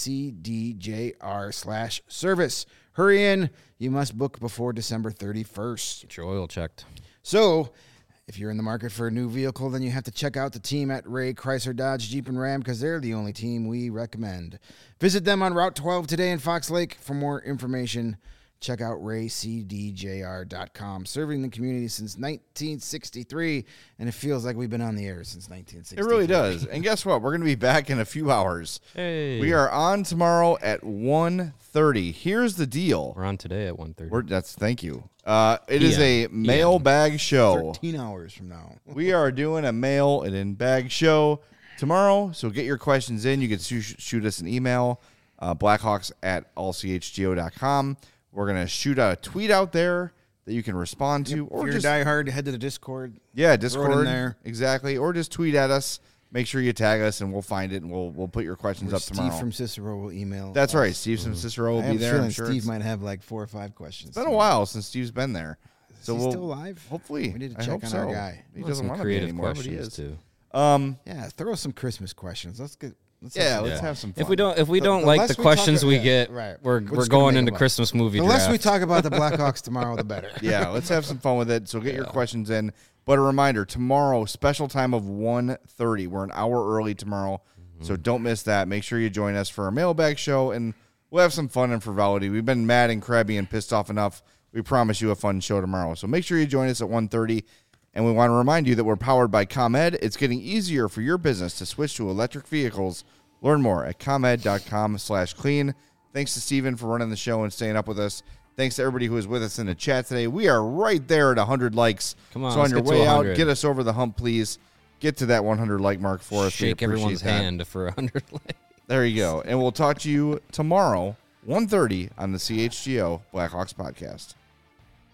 raycdjr slash service. Hurry in. You must book before December thirty-first. Get your oil checked. So, if you're in the market for a new vehicle, then you have to check out the team at Ray Chrysler, Dodge, Jeep, and Ram because they're the only team we recommend. Visit them on Route twelve today in Fox Lake. For more information, check out ray c d j r dot com. Serving the community since nineteen sixty-three, and it feels like we've been on the air since nineteen It sixty-three. really does. And guess what? We're going to be back in a few hours. Hey. We are on tomorrow at one thirty. Here's the deal. We're on today at one thirty. We're, that's thank you. Uh, it is a P M. mailbag show. thirteen hours from now. We are doing a mail and in bag show tomorrow. So get your questions in. You can sh- shoot us an email, uh, blackhawks at all c h g o dot com. We're going to shoot out a tweet out there that you can respond to. If Or you're just, diehard, head to the Discord. yeah, throw it in Discord. there. Exactly. Or just tweet at us. Make sure you tag us and we'll find it and we'll we'll put your questions Or up Steve tomorrow. from Cicero will email. That's us. right. Steve from Cicero will I have be a there. feeling I'm sure Steve it's might have like four or five questions. been a while since Steve's been there. So Is he we'll, still alive? Hopefully. We need to I check hope on so. our guy. He Want doesn't some want to be creative anymore, but he questions is. too. Um, Yeah, throw some Christmas questions. Let's get. Let's have yeah, some let's fun. have some fun. If we don't, if we The- don't the like less the we questions talk- we yeah, get, right. we're We're we're just gonna going make into them up. Christmas movie The draft. less we talk about the Blackhawks tomorrow, the better. Yeah, let's have some fun with it. So get your questions in. But a reminder, tomorrow, special time of one thirty. We're an hour early tomorrow, so don't miss that. Make sure you join us for our mailbag show, and we'll have some fun and frivolity. We've been mad and crabby and pissed off enough. We promise you a fun show tomorrow. So make sure you join us at one thirty. And we want to remind you that we're powered by ComEd. It's getting easier for your business to switch to electric vehicles. Learn more at comed.com slash clean. Thanks to Steven for running the show and staying up with us. Thanks to everybody who was with us in the chat today. We are right there at one hundred likes. Come on, so on let's your get to way out, one hundred. get us over the hump, please. Get to that one hundred like mark for us. We Shake appreciate everyone's that. hand for a hundred likes. There you go. And we'll talk to you tomorrow, one thirty, on the C H G O Blackhawks podcast.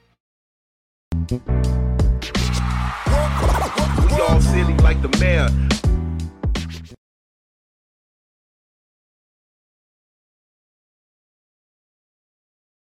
We all silly like the mayor.